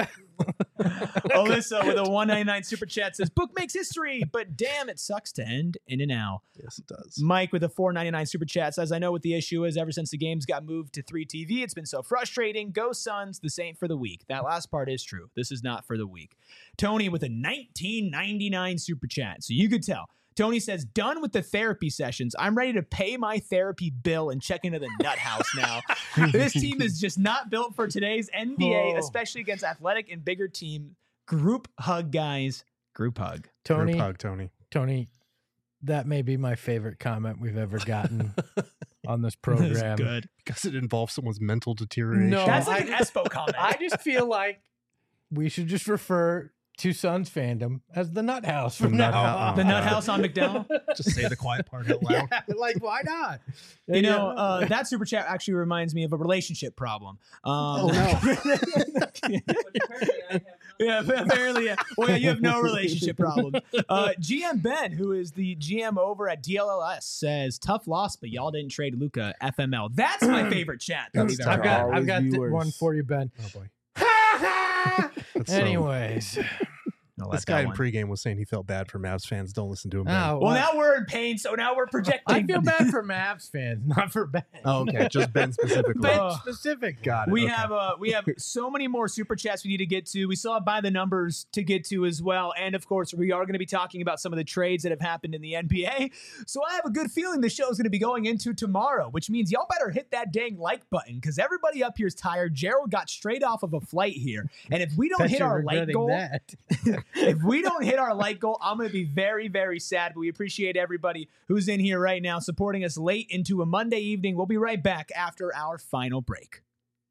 [SPEAKER 1] Alyssa with a $1.99 super chat says, book makes history, but damn, it sucks to end in an L.
[SPEAKER 3] Yes, it does.
[SPEAKER 1] Mike with a $4.99 super chat says, I know what the issue is. Ever since the games got moved to 3TV, it's been so frustrating. Go Suns, this ain't for the weak. That last part is true. This is not for the weak. Tony with a $19.99 super chat. So you could tell. Tony says, done with the therapy sessions. I'm ready to pay my therapy bill and check into the nut house now. This team is just not built for today's NBA, especially against athletic and bigger team. Group hug, guys. Group hug.
[SPEAKER 2] Tony,
[SPEAKER 3] Group hug, Tony.
[SPEAKER 2] Tony, that may be my favorite comment we've ever gotten on this program.
[SPEAKER 1] That's good.
[SPEAKER 3] Because it involves someone's mental deterioration.
[SPEAKER 2] No,
[SPEAKER 1] That's like an Espo comment.
[SPEAKER 2] I just feel like we should just refer to Suns fandom as the Nut House from
[SPEAKER 3] The
[SPEAKER 2] now
[SPEAKER 3] Nut
[SPEAKER 2] on.
[SPEAKER 3] House.
[SPEAKER 1] The nut house on McDowell.
[SPEAKER 3] Just say the quiet part out loud.
[SPEAKER 2] Yeah, like, why not?
[SPEAKER 1] You know, that super chat actually reminds me of a relationship problem.
[SPEAKER 3] Oh, no.
[SPEAKER 1] Yeah, apparently. Yeah. Well, yeah, you have no relationship problem. GM Ben, who is the GM over at DLLS, says, tough loss, but y'all didn't trade Luka FML. That's my favorite chat. that we've ever
[SPEAKER 2] I've
[SPEAKER 1] had.
[SPEAKER 2] got
[SPEAKER 4] Always be
[SPEAKER 2] th-
[SPEAKER 4] worse.
[SPEAKER 2] one for you, Ben.
[SPEAKER 3] Oh, boy.
[SPEAKER 2] Anyways,
[SPEAKER 3] This guy in pregame was saying he felt bad for Mavs fans. Don't listen to him. Ben.
[SPEAKER 2] Oh,
[SPEAKER 1] Well, now we're in pain, so now we're projecting.
[SPEAKER 2] I feel bad for Mavs fans, not for Ben.
[SPEAKER 3] Oh, okay. Just Ben specifically.
[SPEAKER 2] Ben specific.
[SPEAKER 3] Got it.
[SPEAKER 1] We
[SPEAKER 3] Okay.
[SPEAKER 1] we have so many more super chats we need to get to. We still have by the numbers to get to as well, and of course we are going to be talking about some of the trades that have happened in the NBA. So I have a good feeling the show is going to be going into tomorrow, which means y'all better hit that dang like button because everybody up here is tired. Gerald got straight off of a flight here, and if we don't
[SPEAKER 2] Bet
[SPEAKER 1] hit
[SPEAKER 2] you're
[SPEAKER 1] our like
[SPEAKER 2] regretting
[SPEAKER 1] goal,
[SPEAKER 2] that.
[SPEAKER 1] if we don't hit our like goal, I'm going to be very, very sad. But we appreciate everybody who's in here right now supporting us late into a Monday evening. We'll be right back after our final break.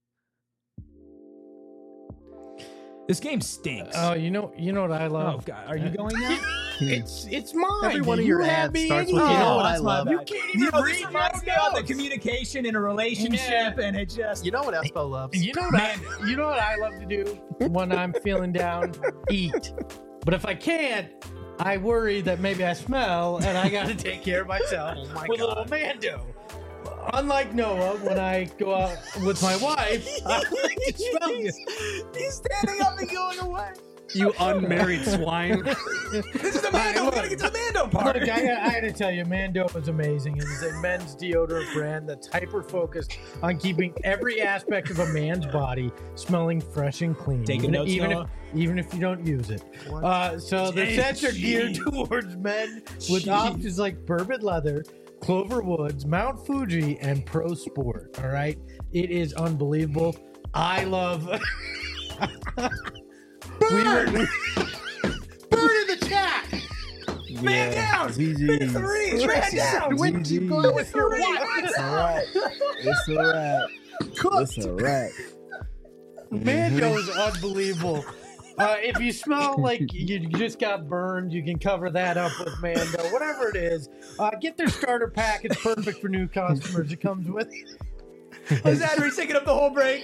[SPEAKER 1] This game stinks.
[SPEAKER 2] Oh, you know what I
[SPEAKER 1] Oh,
[SPEAKER 2] love?
[SPEAKER 1] God. Are you going now?
[SPEAKER 2] It's mine.
[SPEAKER 3] Every one of
[SPEAKER 2] You
[SPEAKER 3] your
[SPEAKER 2] have
[SPEAKER 3] ads
[SPEAKER 2] me
[SPEAKER 3] starts
[SPEAKER 2] in
[SPEAKER 3] with,
[SPEAKER 2] here.
[SPEAKER 3] you know what I
[SPEAKER 1] that's my
[SPEAKER 3] love.
[SPEAKER 1] bad.
[SPEAKER 2] You can't even
[SPEAKER 1] this
[SPEAKER 2] read
[SPEAKER 1] reminds me
[SPEAKER 2] your
[SPEAKER 1] of the
[SPEAKER 2] notes.
[SPEAKER 1] communication in a relationship, and it just...
[SPEAKER 3] You know what Espo loves?
[SPEAKER 2] You know what I love to do when I'm feeling down? Eat. But if I can't, I worry that maybe I smell and I got to take care of myself with a little Mando. Unlike Noah, when I go out with my wife, I like to smell good.
[SPEAKER 1] He's standing up and going away.
[SPEAKER 3] You unmarried swine.
[SPEAKER 1] This is the Mando. We gotta get to the Mando part.
[SPEAKER 2] Look, I gotta tell you, Mando is amazing. It's a men's deodorant brand that's hyper focused on keeping every aspect of a man's body smelling fresh and clean.
[SPEAKER 1] Taking notes, Noah?
[SPEAKER 2] Even if you don't use it. So the sets are geared towards men with options like bourbon leather, Clover Woods, Mount Fuji, and Pro Sport. All right, it is unbelievable. I love. Burn in the chat.
[SPEAKER 1] Man down.
[SPEAKER 4] GG.
[SPEAKER 1] Three. Man down.
[SPEAKER 2] When
[SPEAKER 4] GG.
[SPEAKER 2] you go with your wife.
[SPEAKER 4] It's a wrap. It's a wrap. It's a wrap.
[SPEAKER 2] Mando is unbelievable. If you smell like you just got burned, you can cover that up with Mando. Whatever it is, get their starter pack. It's perfect for new customers. It comes with
[SPEAKER 1] Is Adrian taking up the whole break?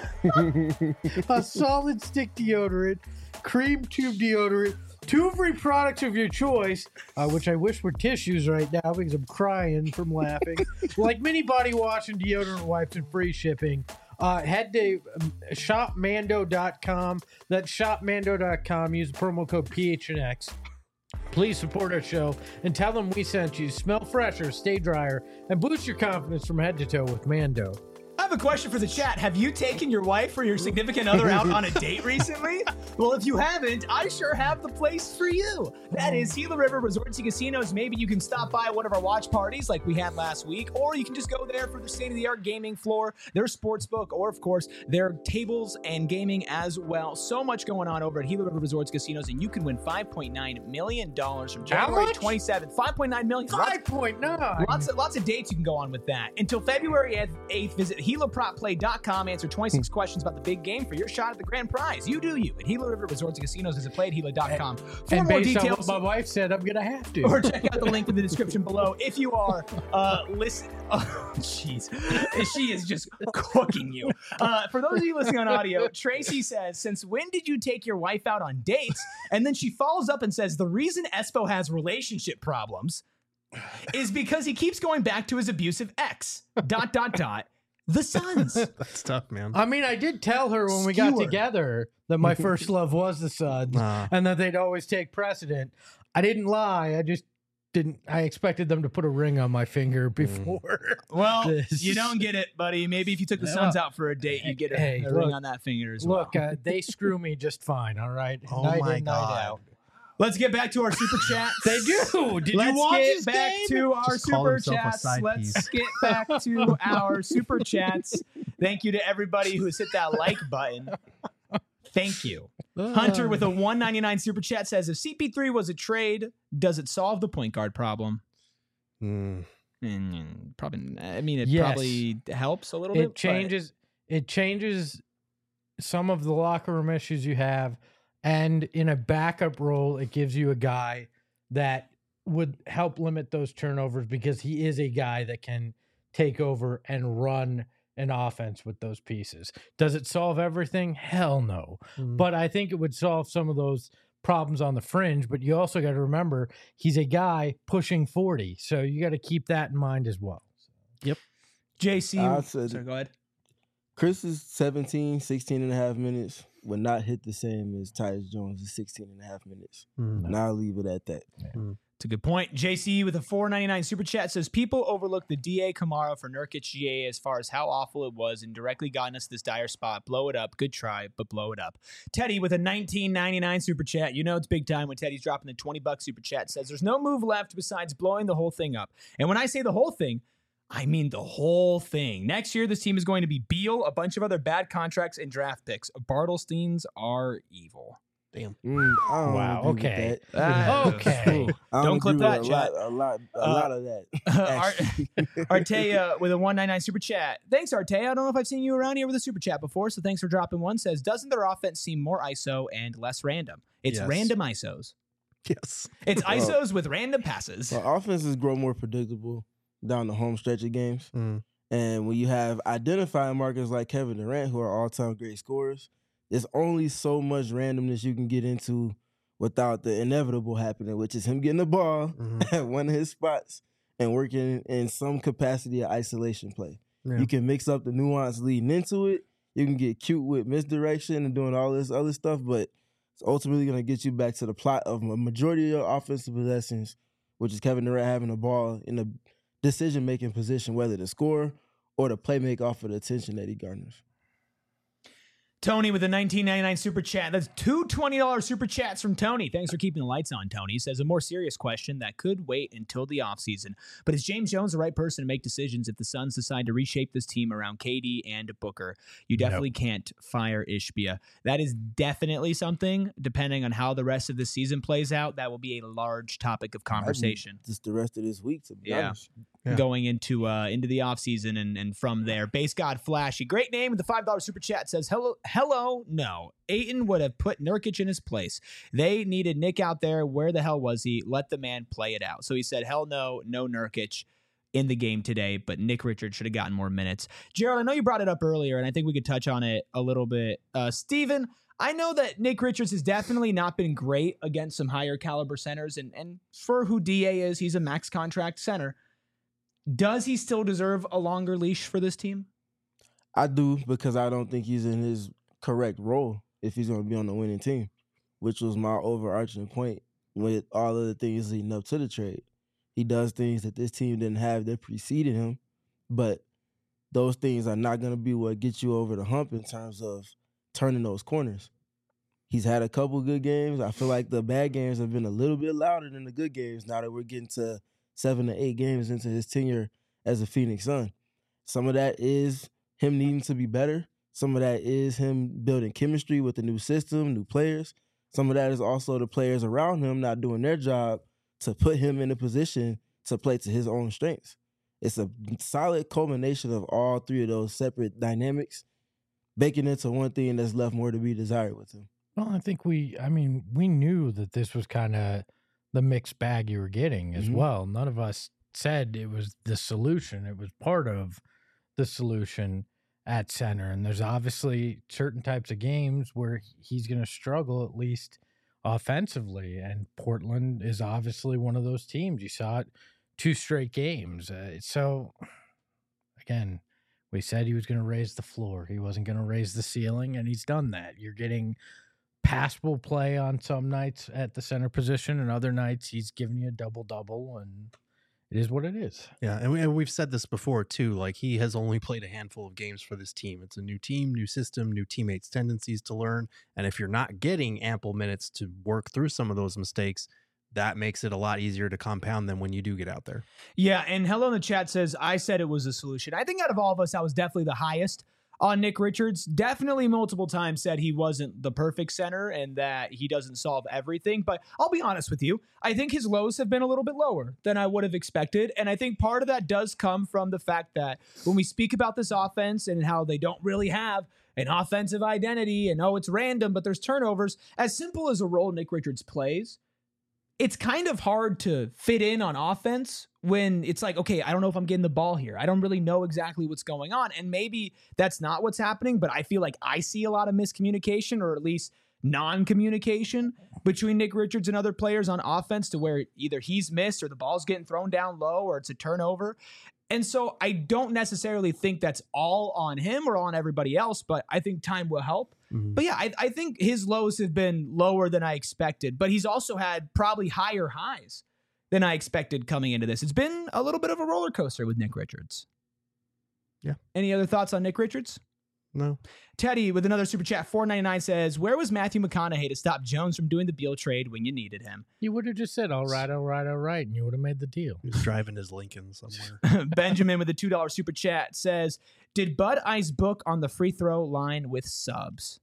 [SPEAKER 2] a solid stick deodorant, cream tube deodorant, 2 free products of your choice, which I wish were tissues right now because I'm crying from laughing. Like mini body wash and deodorant wipes and free shipping. Head to shopmando.com. That's shopmando.com. Use the promo code PHNX. Please support our show and tell them we sent you. Smell fresher, stay drier, and boost your confidence from head to toe with Mando.
[SPEAKER 1] I have a question for the chat. Have you taken your wife or your significant other out on a date recently? Well, if you haven't, I sure have the place for you. That is Gila River Resorts and Casinos. Maybe you can stop by one of our watch parties like we had last week, or you can just go there for the state-of-the-art gaming floor, their sports book, or, of course, their tables and gaming as well. So much going on over at Gila River Resorts Casinos, and you can win $5.9 million from January 27th. $5.9 million.
[SPEAKER 2] 5.9.
[SPEAKER 1] Lots of dates you can go on with that. Until February 8th, visit GilaPropPlay.com. Answer 26 questions about the big game for your shot at the grand prize. You do you at Gila River Resorts and Casinos. Visit playatgila.com for
[SPEAKER 2] And
[SPEAKER 1] more
[SPEAKER 2] based on
[SPEAKER 1] details.
[SPEAKER 2] what my wife said, I'm going to have to.
[SPEAKER 1] Or check out the link in the description below if you are listen. Oh, jeez, she is just cooking you. For those of you listening on audio, Tracy says, "Since when did you take your wife out on dates?" And then she follows up and says, "The reason Espo has relationship problems is because he keeps going back to his abusive ex. ... The Suns."
[SPEAKER 3] That's tough, man.
[SPEAKER 2] I mean, I did tell her when we got
[SPEAKER 1] Skewer.
[SPEAKER 2] together that my first love was the Suns and that they'd always take precedent. I didn't lie. I just didn't. I expected them to put a ring on my finger before.
[SPEAKER 1] Well,
[SPEAKER 2] This.
[SPEAKER 1] you don't get it, buddy. Maybe if you took the Suns out for a date, you get a
[SPEAKER 2] Hey,
[SPEAKER 1] ring
[SPEAKER 2] look.
[SPEAKER 1] on that finger as well.
[SPEAKER 2] Look, they screw me just fine. All right.
[SPEAKER 3] Oh
[SPEAKER 2] night
[SPEAKER 3] my
[SPEAKER 2] in, night
[SPEAKER 3] God.
[SPEAKER 2] out.
[SPEAKER 1] Let's get back to our super chats.
[SPEAKER 2] They do. Did
[SPEAKER 1] Let's
[SPEAKER 2] you watch
[SPEAKER 1] get
[SPEAKER 2] this
[SPEAKER 1] back
[SPEAKER 2] game?
[SPEAKER 1] to our
[SPEAKER 3] Just call
[SPEAKER 1] super
[SPEAKER 3] himself a
[SPEAKER 1] chats.
[SPEAKER 3] side
[SPEAKER 1] Let's
[SPEAKER 3] piece.
[SPEAKER 1] get back to our super chats. Thank you to everybody who has hit that like button. Thank you. Hunter with a $1.99 super chat says, if CP3 was a trade, does it solve the point guard problem? Probably. I mean, it
[SPEAKER 2] Yes.
[SPEAKER 1] probably helps a little bit.
[SPEAKER 2] It changes. It changes some of the locker room issues you have, and in a backup role, it gives you a guy that would help limit those turnovers because he is a guy that can take over and run an offense with those pieces. Does it solve everything? Hell no. But I think it would solve some of those problems on the fringe. But you also got to remember he's a guy pushing 40, so you got to keep that in mind as well.
[SPEAKER 1] JC.
[SPEAKER 4] I said
[SPEAKER 1] Sorry, go ahead.
[SPEAKER 4] Chris is 16 and a half minutes. would not hit the same as Tyus Jones' 16 and a half minutes.
[SPEAKER 3] Mm.
[SPEAKER 4] And I'll leave it at that.
[SPEAKER 1] It's a good point. JC with a $4.99 super chat says, people overlook the DA Kamara for Nurkic GA as far as how awful it was and directly gotten us this dire spot. Blow it up. Good try, but blow it up. Teddy with a $19.99 super chat. You know it's big time when Teddy's dropping the $20 super chat. Says, there's no move left besides blowing the whole thing up. And when I say the whole thing, I mean the whole thing. Next year, this team is going to be Beal, a bunch of other bad contracts, and draft picks. Bartlesteins are evil.
[SPEAKER 3] Damn.
[SPEAKER 4] I don't
[SPEAKER 2] Wow,
[SPEAKER 4] agree with
[SPEAKER 2] okay.
[SPEAKER 4] that.
[SPEAKER 2] Okay.
[SPEAKER 4] I
[SPEAKER 1] Don't clip
[SPEAKER 4] agree
[SPEAKER 1] that,
[SPEAKER 4] with
[SPEAKER 1] chat.
[SPEAKER 4] a lot of that. actually.
[SPEAKER 1] Artea with a $1.99 super chat. Thanks, Artea. I don't know if I've seen you around here with a super chat before, so thanks for dropping one. Says, doesn't their offense seem more ISO and less random? It's
[SPEAKER 3] Yes.
[SPEAKER 1] random ISOs.
[SPEAKER 3] Yes.
[SPEAKER 1] It's ISOs with random passes.
[SPEAKER 4] Well, offenses grow more predictable down the home stretch of games.
[SPEAKER 3] Mm.
[SPEAKER 4] And when you have identifying markers like Kevin Durant, who are all-time great scorers, there's only so much randomness you can get into without the inevitable happening, which is him getting the ball at one of his spots and working in some capacity of isolation play.
[SPEAKER 3] Yeah.
[SPEAKER 4] You can mix up the nuance leading into it. You can get cute with misdirection and doing all this other stuff, but it's ultimately going to get you back to the plot of a majority of your offensive possessions, which is Kevin Durant having the ball in a decision-making position, whether to score or to play make off of the attention that he garners.
[SPEAKER 1] Tony with a $19.99 super chat. That's two $20 super chats from Tony. Thanks for keeping the lights on, Tony. He says, a more serious question that could wait until the offseason. But is James Jones the right person to make decisions if the Suns decide to reshape this team around KD and Booker? You definitely can't fire Ishbia. That is definitely something, depending on how the rest of the season plays out, that will be a large topic of conversation.
[SPEAKER 4] Just the rest of this week, to be
[SPEAKER 1] Yeah.
[SPEAKER 4] honest.
[SPEAKER 3] Yeah.
[SPEAKER 1] Going into the offseason and from there. Base God Flashy, great name with the $5 super chat, says, hello, no. Ayton would have put Nurkic in his place. They needed Nick out there. Where the hell was he? Let the man play it out. So he said, hell no, no Nurkic in the game today, but Nick Richards should have gotten more minutes. Gerald, I know you brought it up earlier, and I think we could touch on it a little bit. Steven, I know that Nick Richards has definitely not been great against some higher caliber centers, and for who DA is, he's a max contract center. Does he still deserve a longer leash for this team?
[SPEAKER 4] I do, because I don't think he's in his correct role if he's going to be on the winning team, which was my overarching point with all of the things leading up to the trade. He does things that this team didn't have that preceded him, but those things are not going to be what gets you over the hump in terms of turning those corners. He's had a couple good games. I feel like the bad games have been a little bit louder than the good games now that we're getting to 7 to 8 games into his tenure as a Phoenix Sun. Some of that is him needing to be better. Some of that is him building chemistry with the new system, new players. Some of that is also the players around him not doing their job to put him in a position to play to his own strengths. It's a solid culmination of all three of those separate dynamics, baking into one thing that's left more to be desired with him.
[SPEAKER 2] Well, I think we knew that this was kind of the mixed bag you were getting as well. None of us said it was the solution. It was part of the solution at center. And there's obviously certain types of games where he's going to struggle, at least offensively. And Portland is obviously one of those teams. You saw it 2 straight games. So again, we said he was going to raise the floor. He wasn't going to raise the ceiling, and he's done that. You're getting passable play on some nights at the center position, and other nights he's giving you a double-double, and it is what it is.
[SPEAKER 3] Yeah, and we've said this before too. Like, he has only played a handful of games for this team. It's a new team, new system, new teammates' tendencies to learn. And if you're not getting ample minutes to work through some of those mistakes, that makes it a lot easier to compound them when you do get out there.
[SPEAKER 1] Yeah, and Hello in the chat says, I said it was a solution. I think out of all of us, I was definitely the highest on Nick Richards. Definitely multiple times said he wasn't the perfect center and that he doesn't solve everything. But I'll be honest with you, I think his lows have been a little bit lower than I would have expected. And I think part of that does come from the fact that when we speak about this offense and how they don't really have an offensive identity and, it's random, but there's turnovers, as simple as a role Nick Richards plays, it's kind of hard to fit in on offense when it's like, okay, I don't know if I'm getting the ball here. I don't really know exactly what's going on. And maybe that's not what's happening, but I feel like I see a lot of miscommunication, or at least non-communication between Nick Richards and other players on offense, to where either he's missed or the ball's getting thrown down low or it's a turnover. And so I don't necessarily think that's all on him or on everybody else, but I think time will help. But yeah, I think his lows have been lower than I expected, but he's also had probably higher highs than I expected coming into this. It's been a little bit of a roller coaster with Nick Richards.
[SPEAKER 3] Yeah.
[SPEAKER 1] Any other thoughts on Nick Richards?
[SPEAKER 3] No.
[SPEAKER 1] Teddy with another super chat, $4.99 says, where was Matthew McConaughey to stop Jones from doing the Beal trade when you needed him?
[SPEAKER 2] You would have just said, all right, and you would have made the deal.
[SPEAKER 3] He was driving his Lincoln somewhere.
[SPEAKER 1] Benjamin with a $2 super chat says, did Bud Ice book on the free throw line with subs?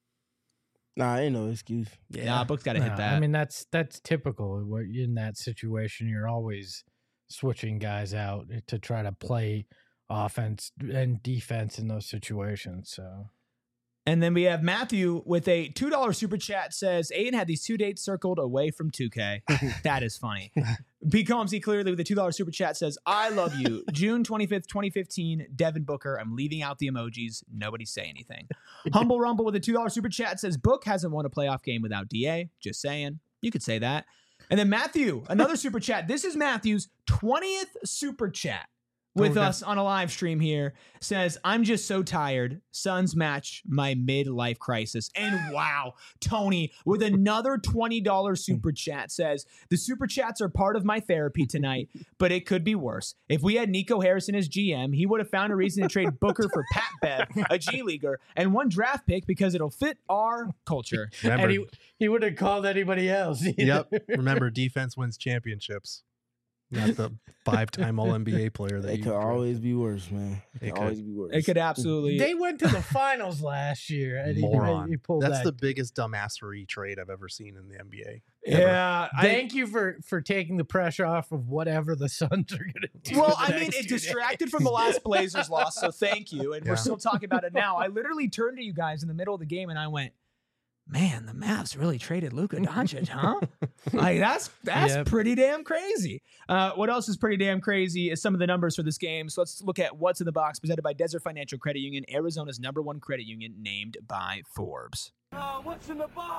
[SPEAKER 4] Nah, ain't no excuse.
[SPEAKER 1] Yeah, Book's got to hit that.
[SPEAKER 2] I mean, that's typical. In that situation, you're always switching guys out to try to play offense and defense in those situations. So,
[SPEAKER 1] and then we have Matthew with a $2 super chat says, Aiden had these 2 dates circled away from 2K. That is funny. B. Combsy clearly with a $2 super chat says, I love you. June 25th, 2015, Devin Booker. I'm leaving out the emojis. Nobody say anything. Humble Rumble with a $2 super chat says, Book hasn't won a playoff game without DA. Just saying. You could say that. And then Matthew, another super chat. This is Matthew's 20th super chat with us on a live stream here, says, I'm just so tired. Suns match my midlife crisis. And wow, Tony with another $20 super chat says, the super chats are part of my therapy tonight, but it could be worse. If we had Nico Harrison as GM, he would have found a reason to trade Booker for Pat Bev, a G Leaguer, and 1 draft pick because it'll fit our culture.
[SPEAKER 3] Remember,
[SPEAKER 2] and he would have called anybody else.
[SPEAKER 3] Yep. Remember, defense wins championships. Not the 5-time All-NBA player that
[SPEAKER 4] It
[SPEAKER 3] you
[SPEAKER 4] could
[SPEAKER 3] drafted.
[SPEAKER 4] always be worse, man. It
[SPEAKER 3] It
[SPEAKER 4] could always be worse.
[SPEAKER 1] It could absolutely.
[SPEAKER 2] They went to the finals last year, and
[SPEAKER 3] Moron.
[SPEAKER 2] he pulled
[SPEAKER 3] That's
[SPEAKER 2] that.
[SPEAKER 3] the biggest dumbassery trade I've ever seen in the NBA.
[SPEAKER 1] Yeah.
[SPEAKER 2] Thank you for taking the pressure off of whatever the Suns are going to do.
[SPEAKER 1] Well,
[SPEAKER 2] the
[SPEAKER 1] I mean,
[SPEAKER 2] next
[SPEAKER 1] it
[SPEAKER 2] 2 days.
[SPEAKER 1] distracted from the last Blazers loss, so thank you. And
[SPEAKER 3] Yeah.
[SPEAKER 1] we're still talking about it now. I literally turned to you guys in the middle of the game and I went, man, the Mavs really traded Luka Doncic, huh? Like that's
[SPEAKER 2] Yep.
[SPEAKER 1] pretty damn crazy. What else is pretty damn crazy is some of the numbers for this game. So let's look at what's in the box presented by Desert Financial Credit Union, Arizona's #1 credit union, named by Forbes.
[SPEAKER 4] a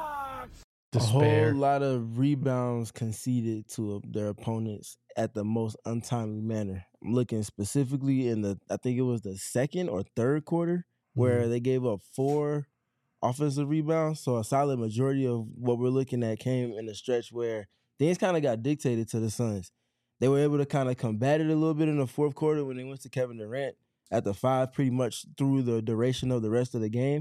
[SPEAKER 2] Despair.
[SPEAKER 4] whole lot of rebounds conceded to their opponents at the most untimely manner. I'm looking specifically in I think it was the second or third quarter where they gave up 4 offensive rebounds. So a solid majority of what we're looking at came in a stretch where things kind of got dictated to the Suns. They were able to kind of combat it a little bit in the fourth quarter when they went to Kevin Durant at the 5 pretty much through the duration of the rest of the game.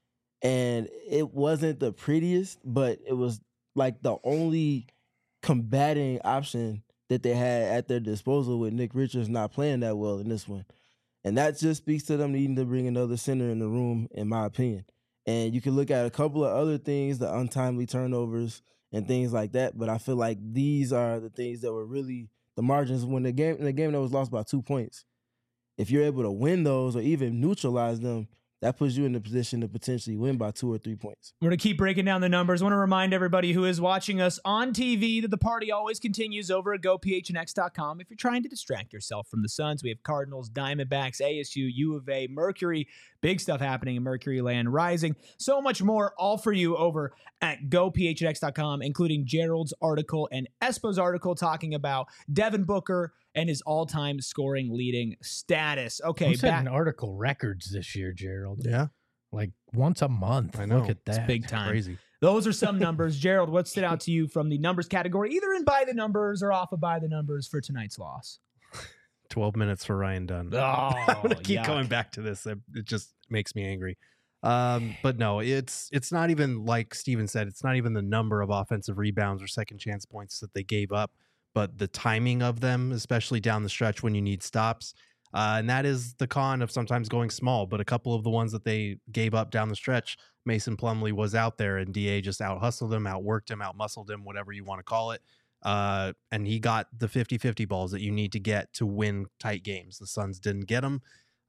[SPEAKER 4] And it wasn't the prettiest, but it was like the only combating option that they had at their disposal with Nick Richards not playing that well in this one. And that just speaks to them needing to bring another center in the room, in my opinion. And you can look at a couple of other things, the untimely turnovers and things like that. But I feel like these are the things that were really the margins in the game that was lost by 2 points. If you're able to win those or even neutralize them, that puts you in the position to potentially win by 2 or 3 points.
[SPEAKER 1] We're going to keep breaking down the numbers. I want to remind everybody who is watching us on TV that the party always continues over at GoPHNX.com. If you're trying to distract yourself from the Suns, we have Cardinals, Diamondbacks, ASU, U of A, Mercury, big stuff happening in Mercury Land Rising. So much more, all for you over at GoPHNX.com, including Gerald's article and Espo's article talking about Devin Booker and his all-time scoring leading status. Okay,
[SPEAKER 2] I'm setting article records this year, Gerald.
[SPEAKER 3] Yeah.
[SPEAKER 2] Like once a month.
[SPEAKER 3] I know.
[SPEAKER 2] Look at that.
[SPEAKER 1] It's big time.
[SPEAKER 3] Crazy.
[SPEAKER 1] Those are some numbers. Gerald, what stood out to you from the numbers category, either in by the numbers or off of by the numbers for tonight's loss?
[SPEAKER 3] 12 minutes for Ryan Dunn.
[SPEAKER 1] Oh,
[SPEAKER 3] I'm gonna keep
[SPEAKER 1] yuck.
[SPEAKER 3] going back to this. It just makes me angry. But no, it's not even like Steven said. It's not even the number of offensive rebounds or second chance points that they gave up, but the timing of them, especially down the stretch when you need stops. And that is the con of sometimes going small. But a couple of the ones that they gave up down the stretch, Mason Plumlee was out there and DA just out hustled him, outworked him, out muscled him, whatever you want to call it. And he got the 50-50 balls that you need to get to win tight games. The Suns didn't get them.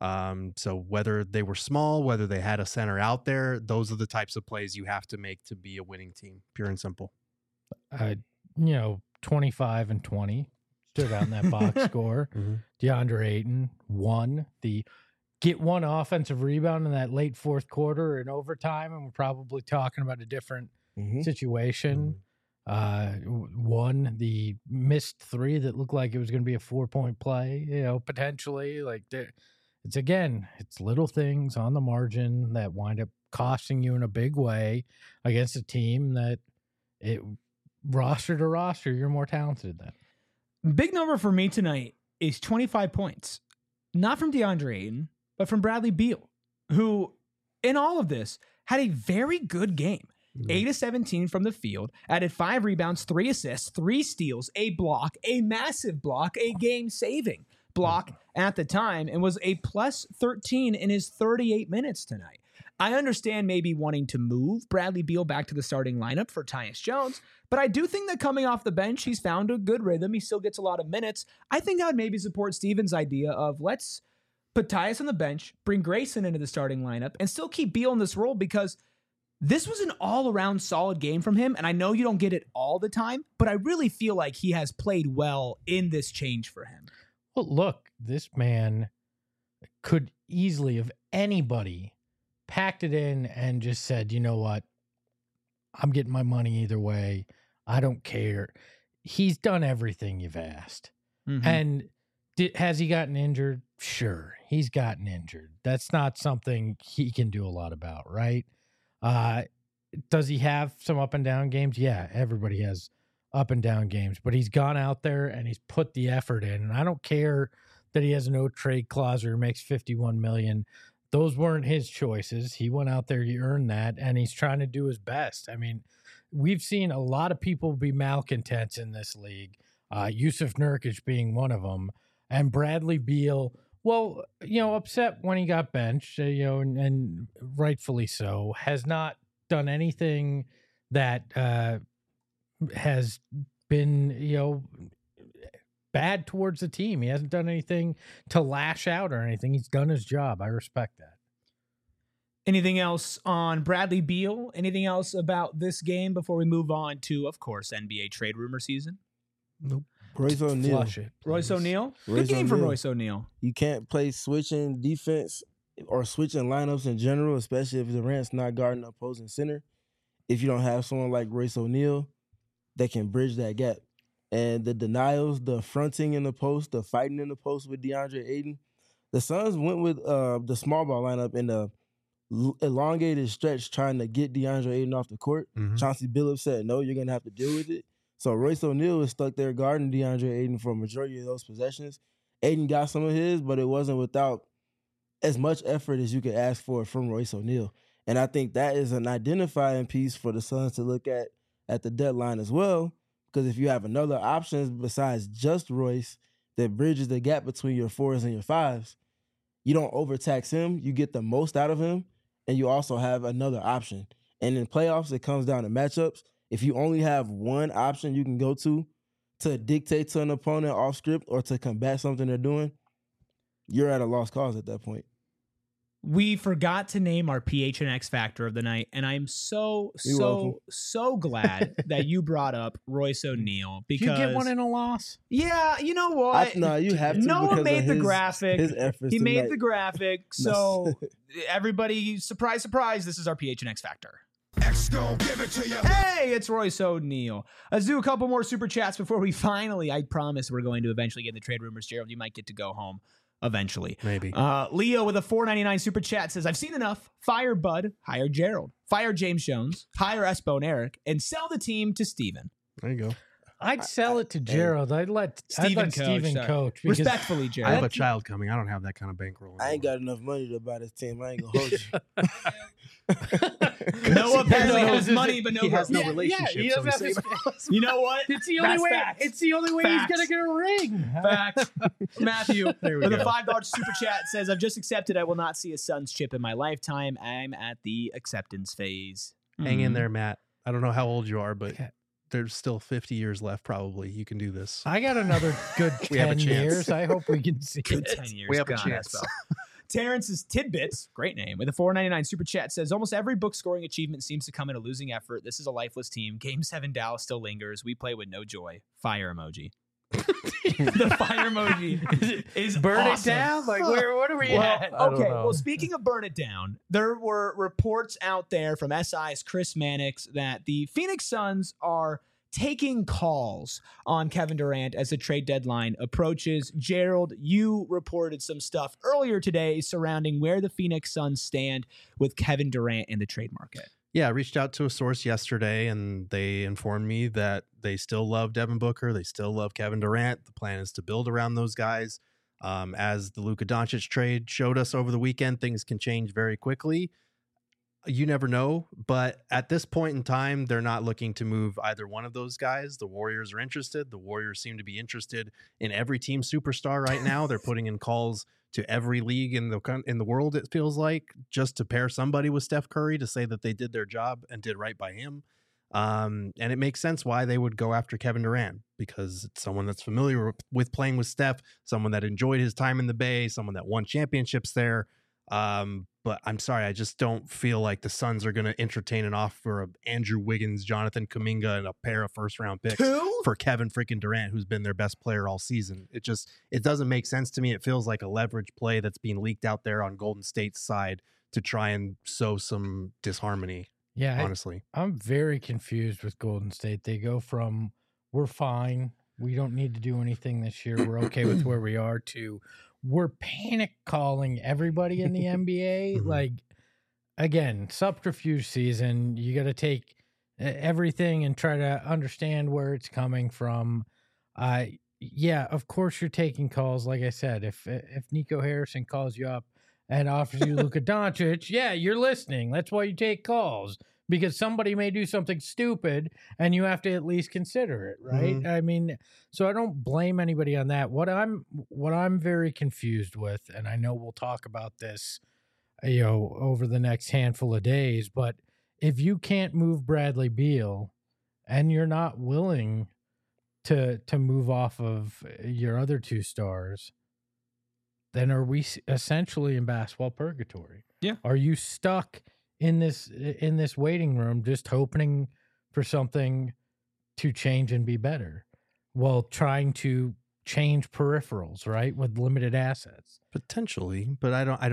[SPEAKER 3] So whether they were small, whether they had a center out there, those are the types of plays you have to make to be a winning team, pure and simple.
[SPEAKER 2] 25 and 20 stood out in that box score. DeAndre Ayton won the get one offensive rebound in that late fourth quarter in overtime, and we're probably talking about a different situation. One, the missed three that looked like it was going to be a 4-point play, potentially. Like, it's little things on the margin that wind up costing you in a big way against a team that roster to roster, you're more talented than.
[SPEAKER 1] Big number for me tonight is 25 points. Not from DeAndre Ayton, but from Bradley Beal, who, in all of this, had a very good game. 8 of 17 from the field, added 5 rebounds, 3 assists, 3 steals, a block, a massive block, a game-saving block at the time, and was a plus 13 in his 38 minutes tonight. I understand maybe wanting to move Bradley Beal back to the starting lineup for Tyus Jones, but I do think that coming off the bench, he's found a good rhythm. He still gets a lot of minutes. I think I would maybe support Steven's idea of let's put Tyus on the bench, bring Grayson into the starting lineup, and still keep Beal in this role, because this was an all-around solid game from him, and I know you don't get it all the time, but I really feel like he has played well in this change for him.
[SPEAKER 2] Well, look, this man could easily, if anybody, packed it in and just said, you know what, I'm getting my money either way. I don't care. He's done everything you've asked.
[SPEAKER 1] Mm-hmm.
[SPEAKER 2] And has he gotten injured? Sure, he's gotten injured. That's not something he can do a lot about, right? Does he have some up and down games? Yeah, everybody has up and down games, but he's gone out there and he's put the effort in. And I don't care that he has a no trade clause or makes $51 million. Those weren't his choices. He went out there, he earned that, and he's trying to do his best. I mean, we've seen a lot of people be malcontents in this league. Yusuf Nurkic being one of them, and Bradley Beal, well, upset when he got benched, and rightfully so, has not done anything that has been, bad towards the team. He hasn't done anything to lash out or anything. He's done his job. I respect that.
[SPEAKER 1] Anything else on Bradley Beal? Anything else about this game before we move on to, of course, NBA trade rumor season?
[SPEAKER 2] Nope.
[SPEAKER 4] Royce O'Neal.
[SPEAKER 2] Flush it,
[SPEAKER 1] Royce O'Neal? Good
[SPEAKER 4] Royce
[SPEAKER 1] game from
[SPEAKER 4] O'Neal.
[SPEAKER 1] Royce O'Neal.
[SPEAKER 4] You can't play switching defense or switching lineups in general, especially if Durant's not guarding the opposing center, if you don't have someone like Royce O'Neal that can bridge that gap. And the denials, the fronting in the post, the fighting in the post with DeAndre Ayton, the Suns went with the small ball lineup in the elongated stretch trying to get DeAndre Ayton off the court.
[SPEAKER 3] Mhm.
[SPEAKER 4] Chauncey Billups said, no, you're going to have to deal with it. So Royce O'Neal is stuck there guarding DeAndre Ayton for a majority of those possessions. Ayton got some of his, but it wasn't without as much effort as you could ask for from Royce O'Neal. And I think that is an identifying piece for the Suns to look at the deadline as well, because if you have another option besides just Royce that bridges the gap between your 4s and your 5s, you don't overtax him, you get the most out of him, and you also have another option. And in playoffs, it comes down to matchups. If you only have one option you can go to dictate to an opponent off script or to combat something they're doing, you're at a lost cause at that point.
[SPEAKER 1] We forgot to name our PH and X factor of the night, and I'm so glad that you brought up Royce O'Neal, because
[SPEAKER 2] Did you get one in a loss?
[SPEAKER 1] Yeah, you know what?
[SPEAKER 4] No, you have to.
[SPEAKER 1] Noah
[SPEAKER 4] because
[SPEAKER 1] made
[SPEAKER 4] of
[SPEAKER 1] the
[SPEAKER 4] his-
[SPEAKER 1] graphic.
[SPEAKER 4] His efforts
[SPEAKER 1] He made
[SPEAKER 4] tonight.
[SPEAKER 1] the graphic, so everybody, surprise, surprise, this is our PH and X factor. Hey, it's Royce O'Neal. Let's do a couple more super chats before we finally, I promise we're going to eventually get in the trade rumors. Gerald, you might get to go home eventually.
[SPEAKER 3] Maybe.
[SPEAKER 1] Leo with a $4.99 super chat says, I've seen enough. Fire Bud, hire Gerald. Fire James Jones, hire Espo and Eric, and sell the team to Steven.
[SPEAKER 3] There you go.
[SPEAKER 2] I'd sell it to Gerald. I'd let Steven
[SPEAKER 1] sorry.
[SPEAKER 2] coach. Because
[SPEAKER 1] Respectfully,
[SPEAKER 3] I
[SPEAKER 1] Gerald.
[SPEAKER 3] have a child coming. I don't have that kind of bankroll.
[SPEAKER 4] I ain't got enough money to buy this team. I ain't gonna hold you.
[SPEAKER 1] Noah apparently
[SPEAKER 2] No,
[SPEAKER 1] has money, but no
[SPEAKER 3] he has no
[SPEAKER 1] girls.
[SPEAKER 3] relationship.
[SPEAKER 2] he
[SPEAKER 3] so
[SPEAKER 2] doesn't
[SPEAKER 3] he's
[SPEAKER 2] have
[SPEAKER 3] safe.
[SPEAKER 1] You know what?
[SPEAKER 2] It's the only
[SPEAKER 1] That's
[SPEAKER 2] way.
[SPEAKER 1] facts.
[SPEAKER 2] It's the only way
[SPEAKER 1] Facts.
[SPEAKER 2] he's gonna get a ring.
[SPEAKER 1] Fact. Matthew
[SPEAKER 2] There we
[SPEAKER 1] with a
[SPEAKER 2] go.
[SPEAKER 1] $5 super chat says, I've just accepted I will not see a Suns chip in my lifetime. I'm at the acceptance phase.
[SPEAKER 3] Hang in
[SPEAKER 1] Mm.
[SPEAKER 3] there, Matt. I don't know how old you are, but
[SPEAKER 2] Okay.
[SPEAKER 3] there's still 50 years left. Probably you can do this.
[SPEAKER 2] I got another good
[SPEAKER 3] We have a
[SPEAKER 2] 10
[SPEAKER 3] chance.
[SPEAKER 2] years. I hope we can see
[SPEAKER 1] Good
[SPEAKER 2] it.
[SPEAKER 1] 10 years.
[SPEAKER 3] We have a
[SPEAKER 1] God,
[SPEAKER 3] chance.
[SPEAKER 1] Espo. Terrence's Tidbits, great name, with a $4.99 super chat says, almost every book scoring achievement seems to come in a losing effort. This is a lifeless team. Game 7 Dallas still lingers. We play with no joy. Fire emoji. The fire emoji is
[SPEAKER 2] Burn
[SPEAKER 1] awesome.
[SPEAKER 2] it down. Like what are we
[SPEAKER 1] Well,
[SPEAKER 2] at?
[SPEAKER 1] okay. Well, speaking of burn it down, there were reports out there from SI's Chris Mannix that the Phoenix Suns are taking calls on Kevin Durant as the trade deadline approaches. Gerald, you reported some stuff earlier today surrounding where the Phoenix Suns stand with Kevin Durant in the trade market.
[SPEAKER 3] Yeah, I reached out to a source yesterday, and they informed me that they still love Devin Booker. They still love Kevin Durant. The plan is to build around those guys. As the Luka Doncic trade showed us over the weekend, things can change very quickly. You never know, but at this point in time, they're not looking to move either one of those guys. The Warriors are interested. The Warriors seem to be interested in every team superstar right now. They're putting in calls to every league in the world, it feels like, just to pair somebody with Steph Curry to say that they did their job and did right by him. And it makes sense why they would go after Kevin Durant, because it's someone that's familiar with playing with Steph, someone that enjoyed his time in the Bay, someone that won championships there. But I'm sorry, I just don't feel like the Suns are going to entertain an offer of Andrew Wiggins, Jonathan Kuminga, and a pair of first-round picks for Kevin freaking Durant, who's been their best player all season. It doesn't make sense to me. It feels like a leverage play that's being leaked out there on Golden State's side to try and sow some disharmony.
[SPEAKER 2] Yeah,
[SPEAKER 3] honestly,
[SPEAKER 2] I'm very confused with Golden State. They go from we're fine, we don't need to do anything this year, we're okay with where we are, to we're panic calling everybody in the NBA.
[SPEAKER 3] Mm-hmm.
[SPEAKER 2] Like, again, subterfuge season. You got to take everything and try to understand where it's coming from. Yeah, of course you're taking calls. Like I said, if Nico Harrison calls you up and offers you Luka Doncic, yeah, you're listening. That's why you take calls, because somebody may do something stupid and you have to at least consider it, right?
[SPEAKER 3] Mm-hmm.
[SPEAKER 2] I mean, so I don't blame anybody on that. What I'm very confused with, and I know we'll talk about this, over the next handful of days, but if you can't move Bradley Beal and you're not willing to move off of your other two stars, then are we essentially in basketball purgatory?
[SPEAKER 1] Yeah.
[SPEAKER 2] Are you stuck in this waiting room just hoping for something to change and be better while trying to change peripherals, right, with limited assets?
[SPEAKER 3] Potentially, but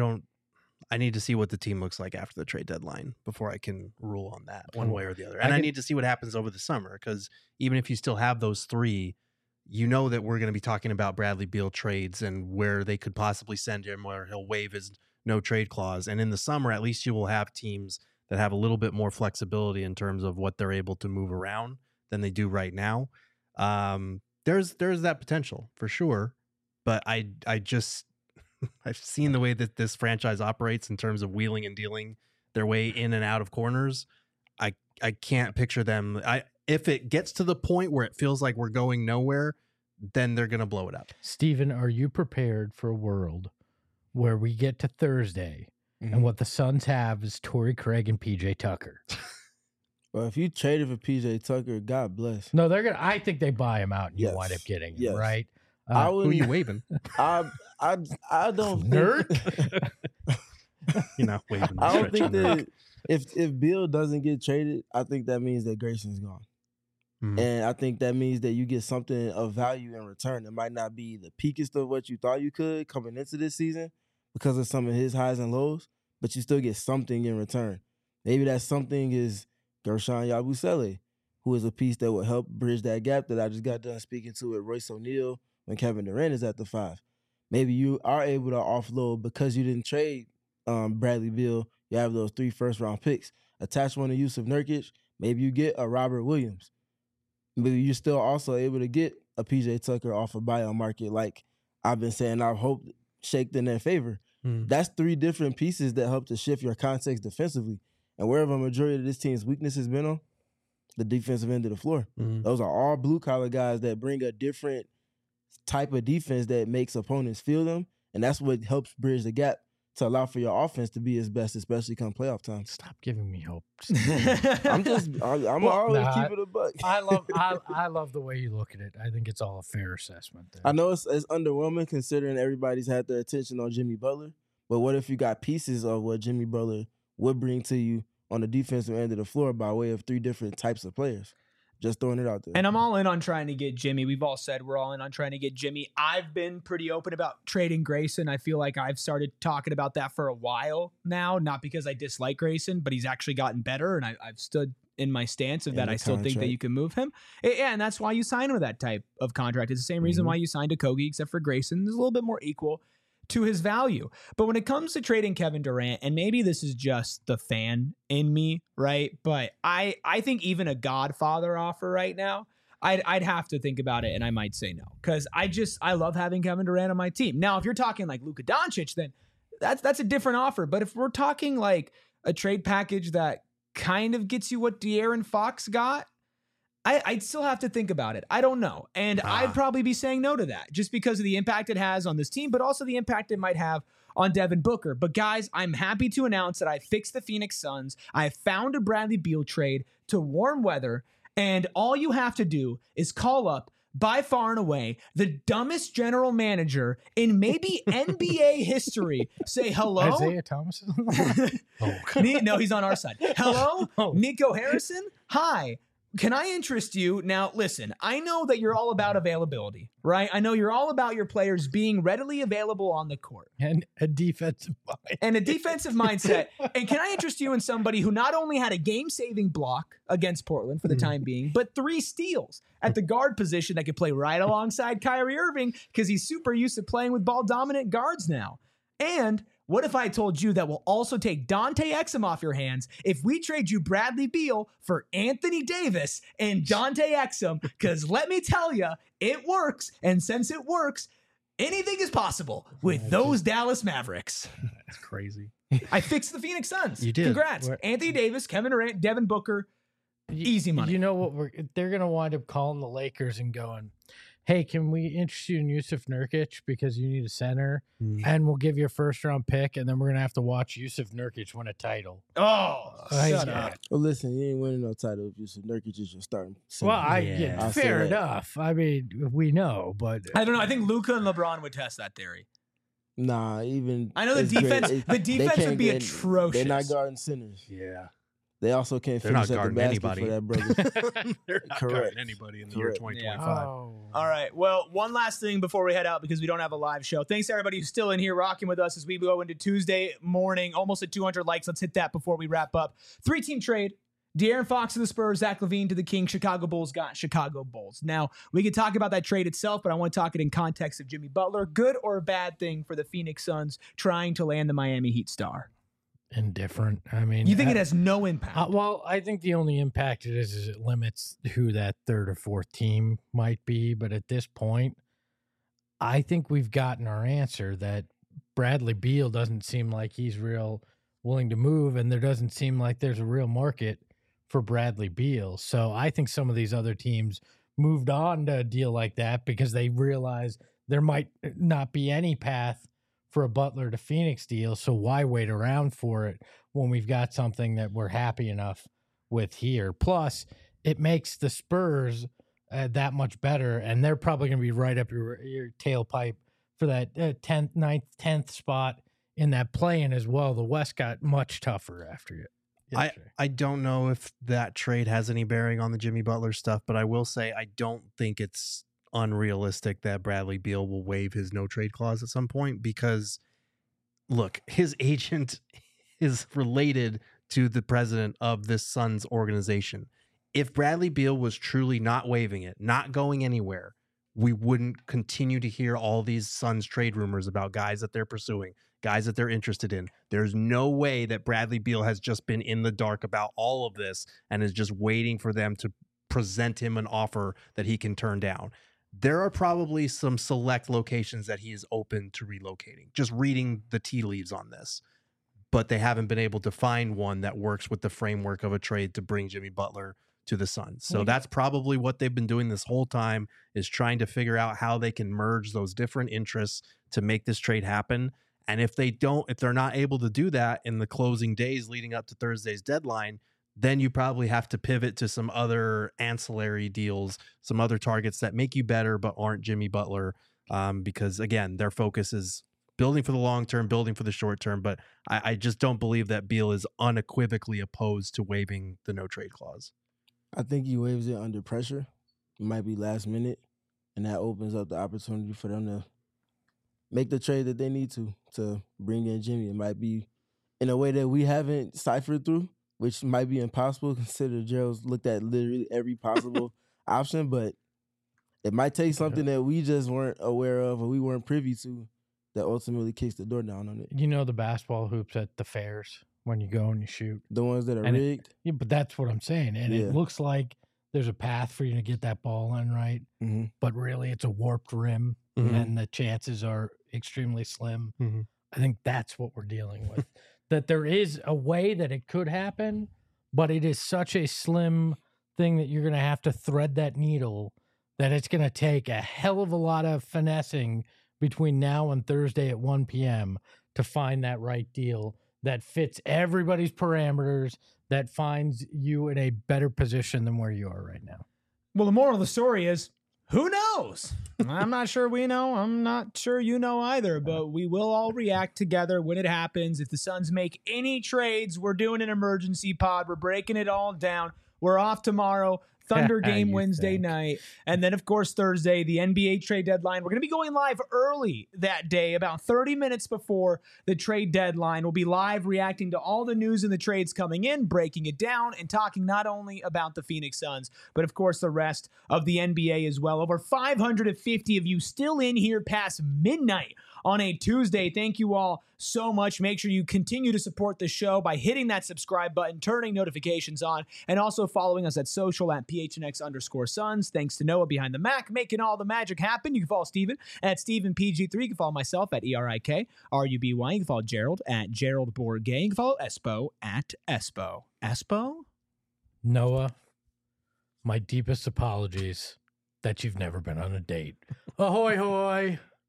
[SPEAKER 3] I need to see what the team looks like after the trade deadline before I can rule on that one way or the other. And I need to see what happens over the summer, because even if you still have those three, you know that we're going to be talking about Bradley Beal trades and where they could possibly send him, where he'll waive his no trade clause. And in the summer, at least you will have teams that have a little bit more flexibility in terms of what they're able to move around than they do right now. There's that potential for sure, but I just I've seen the way that this franchise operates in terms of wheeling and dealing their way in and out of corners. I can't picture them. If it gets to the point where it feels like we're going nowhere, then they're going to blow it up.
[SPEAKER 2] Steven, are you prepared for a world where we get to Thursday and what the Suns have is Torrey Craig and PJ Tucker?
[SPEAKER 4] Well, if you traded for PJ Tucker, God bless.
[SPEAKER 2] No, they're gonna. I think they buy him out and you
[SPEAKER 4] Yes.
[SPEAKER 2] wind up getting him,
[SPEAKER 4] Yes.
[SPEAKER 2] right?
[SPEAKER 4] I
[SPEAKER 3] Who
[SPEAKER 4] would.
[SPEAKER 3] you waving?
[SPEAKER 4] I don't
[SPEAKER 2] Nerd?
[SPEAKER 3] You're not waving.
[SPEAKER 4] I don't think
[SPEAKER 3] stretching there.
[SPEAKER 4] that if Bill doesn't get traded, I think that means that Grayson's gone.
[SPEAKER 3] Mhm.
[SPEAKER 4] And I think that means that you get something of value in return. It might not be the peakest of what you thought you could coming into this season because of some of his highs and lows, but you still get something in return. Maybe that something is Gershon Yabusele, who is a piece that will help bridge that gap that I just got done speaking to with Royce O'Neal when Kevin Durant is at the 5. Maybe you are able to offload because you didn't trade Bradley Beal. You have those 3 first-round picks. Attach one to Yusuf Nurkic. Maybe you get a Robert Williams. Maybe you're still also able to get a PJ Tucker off a buyout market, like I've been saying. I've hoped shaked in their favor. That's 3 different pieces that help to shift your context defensively. And wherever a majority of this team's weakness has been on, the defensive end of the floor. Those are all blue-collar guys that bring a different type of defense that makes opponents feel them, and that's what helps bridge the gap to allow for your offense to be its best, especially come playoff time.
[SPEAKER 2] Stop giving me hope.
[SPEAKER 4] I'm always keep it a buck.
[SPEAKER 2] I love the way you look at it. I think it's all a fair assessment there.
[SPEAKER 4] I know it's underwhelming considering everybody's had their attention on Jimmy Butler, but what if you got pieces of what Jimmy Butler would bring to you on the defensive end of the floor by way of 3 different types of players? Just throwing it out there.
[SPEAKER 1] And I'm all in on trying to get Jimmy. We've all said we're all in on trying to get Jimmy. I've been pretty open about trading Grayson. I feel like I've started talking about that for a while now, not because I dislike Grayson, but he's actually gotten better, and I've stood in my stance of
[SPEAKER 4] And
[SPEAKER 1] that
[SPEAKER 4] the
[SPEAKER 1] I still think that
[SPEAKER 4] contract.
[SPEAKER 1] you can move him. Yeah, and that's why you sign him with that type of contract. It's the same reason
[SPEAKER 4] Mhm.
[SPEAKER 1] why you signed a Kogi, except for Grayson. There's a little bit more equal to his value. But when it comes to trading Kevin Durant, and maybe this is just the fan in me, right? But I think even a Godfather offer right now, I'd have to think about it, and I might say no, because I love having Kevin Durant on my team. Now, if you're talking like Luka Doncic, then that's a different offer. But if we're talking like a trade package that kind of gets you what De'Aaron Fox got, I'd still have to think about it. I don't know. And I'd probably be saying no to that just because of the impact it has on this team, but also the impact it might have on Devin Booker. But guys, I'm happy to announce that I fixed the Phoenix Suns. I found a Bradley Beal trade to warm weather. And all you have to do is call up, by far and away, the dumbest general manager in maybe NBA history. Say hello.
[SPEAKER 2] Isaiah Thomas.
[SPEAKER 1] No, he's on our side. Hello,
[SPEAKER 2] Oh.
[SPEAKER 1] Nico Harrison. Hi. Can I interest you? Now, listen, I know that you're all about availability, right? I know you're all about your players being readily available on the court
[SPEAKER 2] And a defensive mind.
[SPEAKER 1] and a defensive mindset. And can I interest you in somebody who not only had a game-saving block against Portland for the time being, but 3 steals at the guard position that could play right alongside Kyrie Irving because he's super used to playing with ball-dominant guards now. And what if I told you that we'll also take Dante Exum off your hands if we trade you Bradley Beal for Anthony Davis and Dante Exum? Because let me tell you, it works. And since it works, anything is possible with those Dallas Mavericks.
[SPEAKER 3] That's crazy.
[SPEAKER 1] I fixed the Phoenix Suns.
[SPEAKER 3] You did.
[SPEAKER 1] Congrats.
[SPEAKER 2] We're-
[SPEAKER 1] Anthony Davis, Kevin Durant, Devin Booker. Easy money.
[SPEAKER 2] You know what? They're going to wind up calling the Lakers and going, hey, can we interest you in Yusuf Nurkic because you need a center? And we'll give you a first-round pick, and then we're going to have to watch Yusuf Nurkic win a title.
[SPEAKER 1] Oh, shut
[SPEAKER 2] yeah.
[SPEAKER 1] up.
[SPEAKER 4] Well, listen, you ain't winning no title if Yusuf Nurkic is your starting center.
[SPEAKER 2] Well,
[SPEAKER 3] Yeah.
[SPEAKER 4] I'll say
[SPEAKER 2] fair
[SPEAKER 4] that.
[SPEAKER 2] enough. I mean, we know, but
[SPEAKER 1] I don't know. I think Luka and LeBron would test that theory.
[SPEAKER 4] Nah, even
[SPEAKER 1] I know the
[SPEAKER 4] it's great.
[SPEAKER 1] defense.
[SPEAKER 4] It-
[SPEAKER 1] The
[SPEAKER 4] they
[SPEAKER 1] defense
[SPEAKER 4] can't
[SPEAKER 1] would be
[SPEAKER 4] get-
[SPEAKER 1] atrocious.
[SPEAKER 4] They're not guarding centers.
[SPEAKER 3] Yeah.
[SPEAKER 4] They also can't
[SPEAKER 3] They're not
[SPEAKER 4] finish at the
[SPEAKER 3] guarding
[SPEAKER 4] basket
[SPEAKER 3] anybody.
[SPEAKER 4] for that brother.
[SPEAKER 3] They're not
[SPEAKER 4] Correct.
[SPEAKER 3] guarding anybody in the year
[SPEAKER 4] Correct.
[SPEAKER 3] 2025.
[SPEAKER 2] oh.
[SPEAKER 1] All right. Well, one last thing before we head out because we don't have a live show. Thanks to everybody who's still in here rocking with us as we go into Tuesday morning. Almost at 200 likes. Let's hit that before we wrap up. 3-team trade. De'Aaron Fox to the Spurs, Zach LaVine to the Kings. Chicago Bulls got Chicago Bulls. Now, we can talk about that trade itself, but I want to talk it in context of Jimmy Butler. Good or bad thing for the Phoenix Suns trying to land the Miami Heat star?
[SPEAKER 2] Indifferent. I mean,
[SPEAKER 1] You think it has no impact?
[SPEAKER 2] well, I think the only impact it is it limits who that third or fourth team might be. But at this point, I think we've gotten our answer that Bradley Beal doesn't seem like he's real willing to move, and there doesn't seem like there's a real market for Bradley Beal. So I think some of these other teams moved on to a deal like that because they realize there might not be any path for a Butler to Phoenix deal. So why wait around for it when we've got something that we're happy enough with here? Plus, it makes the Spurs that much better, and they're probably going to be right up your tailpipe for that 10th, 9th, 10th spot in that play-in as well. The West got much tougher after it.
[SPEAKER 3] I don't know if that trade has any bearing on the Jimmy Butler stuff, but I will say I don't think it's unrealistic that Bradley Beal will waive his no trade clause at some point because, look, his agent is related to the president of this Suns organization. If Bradley Beal was truly not waiving it, not going anywhere, we wouldn't continue to hear all these Suns trade rumors about guys that they're pursuing, guys that they're interested in. There's no way that Bradley Beal has just been in the dark about all of this and is just waiting for them to present him an offer that he can turn down. There are probably some select locations that he is open to relocating, just reading the tea leaves on this. But they haven't been able to find one that works with the framework of a trade to bring Jimmy Butler to the Suns. So that's probably what they've been doing this whole time, is trying to figure out how they can merge those different interests to make this trade happen. And if they're not able to do that in the closing days leading up to Thursday's deadline, then you probably have to pivot to some other ancillary deals, some other targets that make you better but aren't Jimmy Butler, because, again, their focus is building for the long term, building for the short term. But I just don't believe that Beal is unequivocally opposed to waiving the no trade clause.
[SPEAKER 4] I think he waives it under pressure. It might be last minute, and that opens up the opportunity for them to make the trade that they need to bring in Jimmy. It might be in a way that we haven't ciphered through, which might be impossible considering Gerald's looked at literally every possible option, but it might take something that we just weren't aware of or we weren't privy to that ultimately kicks the door down on it.
[SPEAKER 2] You know the basketball hoops at the fairs when you go and you shoot?
[SPEAKER 4] The ones that are
[SPEAKER 2] And
[SPEAKER 4] rigged?
[SPEAKER 2] Yeah, but that's what I'm saying. And
[SPEAKER 4] Yeah.
[SPEAKER 2] it looks like there's a path for you to get that ball in, right?
[SPEAKER 4] Mm-hmm.
[SPEAKER 2] But really it's a warped rim
[SPEAKER 3] Mhm.
[SPEAKER 2] and the chances are extremely slim.
[SPEAKER 3] Mhm.
[SPEAKER 2] I think that's what we're dealing with. That there is a way that it could happen, but it is such a slim thing that you're going to have to thread that needle that it's going to take a hell of a lot of finessing between now and Thursday at 1 p.m. to find that right deal that fits everybody's parameters, that finds you in a better position than where you are right now.
[SPEAKER 1] Well, the moral of the story is, who knows? I'm not sure we know. I'm not sure you know either, but we will all react together when it happens. If the Suns make any trades, we're doing an emergency pod. We're breaking it all down. We're off tomorrow. Thunder game
[SPEAKER 2] You
[SPEAKER 1] Wednesday
[SPEAKER 2] think.
[SPEAKER 1] night. And then, of course, Thursday, the NBA trade deadline. We're going to be going live early that day, about 30 minutes before the trade deadline. We'll be live reacting to all the news and the trades coming in, breaking it down, and talking not only about the Phoenix Suns, but, of course, the rest of the NBA as well. Over 550 of you still in here past midnight on a Tuesday. Thank you all so much. Make sure you continue to support the show by hitting that subscribe button, turning notifications on, and also following us at social at PHNX_Suns. Thanks to Noah behind the Mac, making all the magic happen. You can follow Steven at StevenPG3. You can follow myself at ERIKRUBY. You can follow Gerald at Gerald Bourget. You can follow Espo at Espo. Espo?
[SPEAKER 2] Noah, my deepest apologies that you've never been on a date. Ahoy, hoy.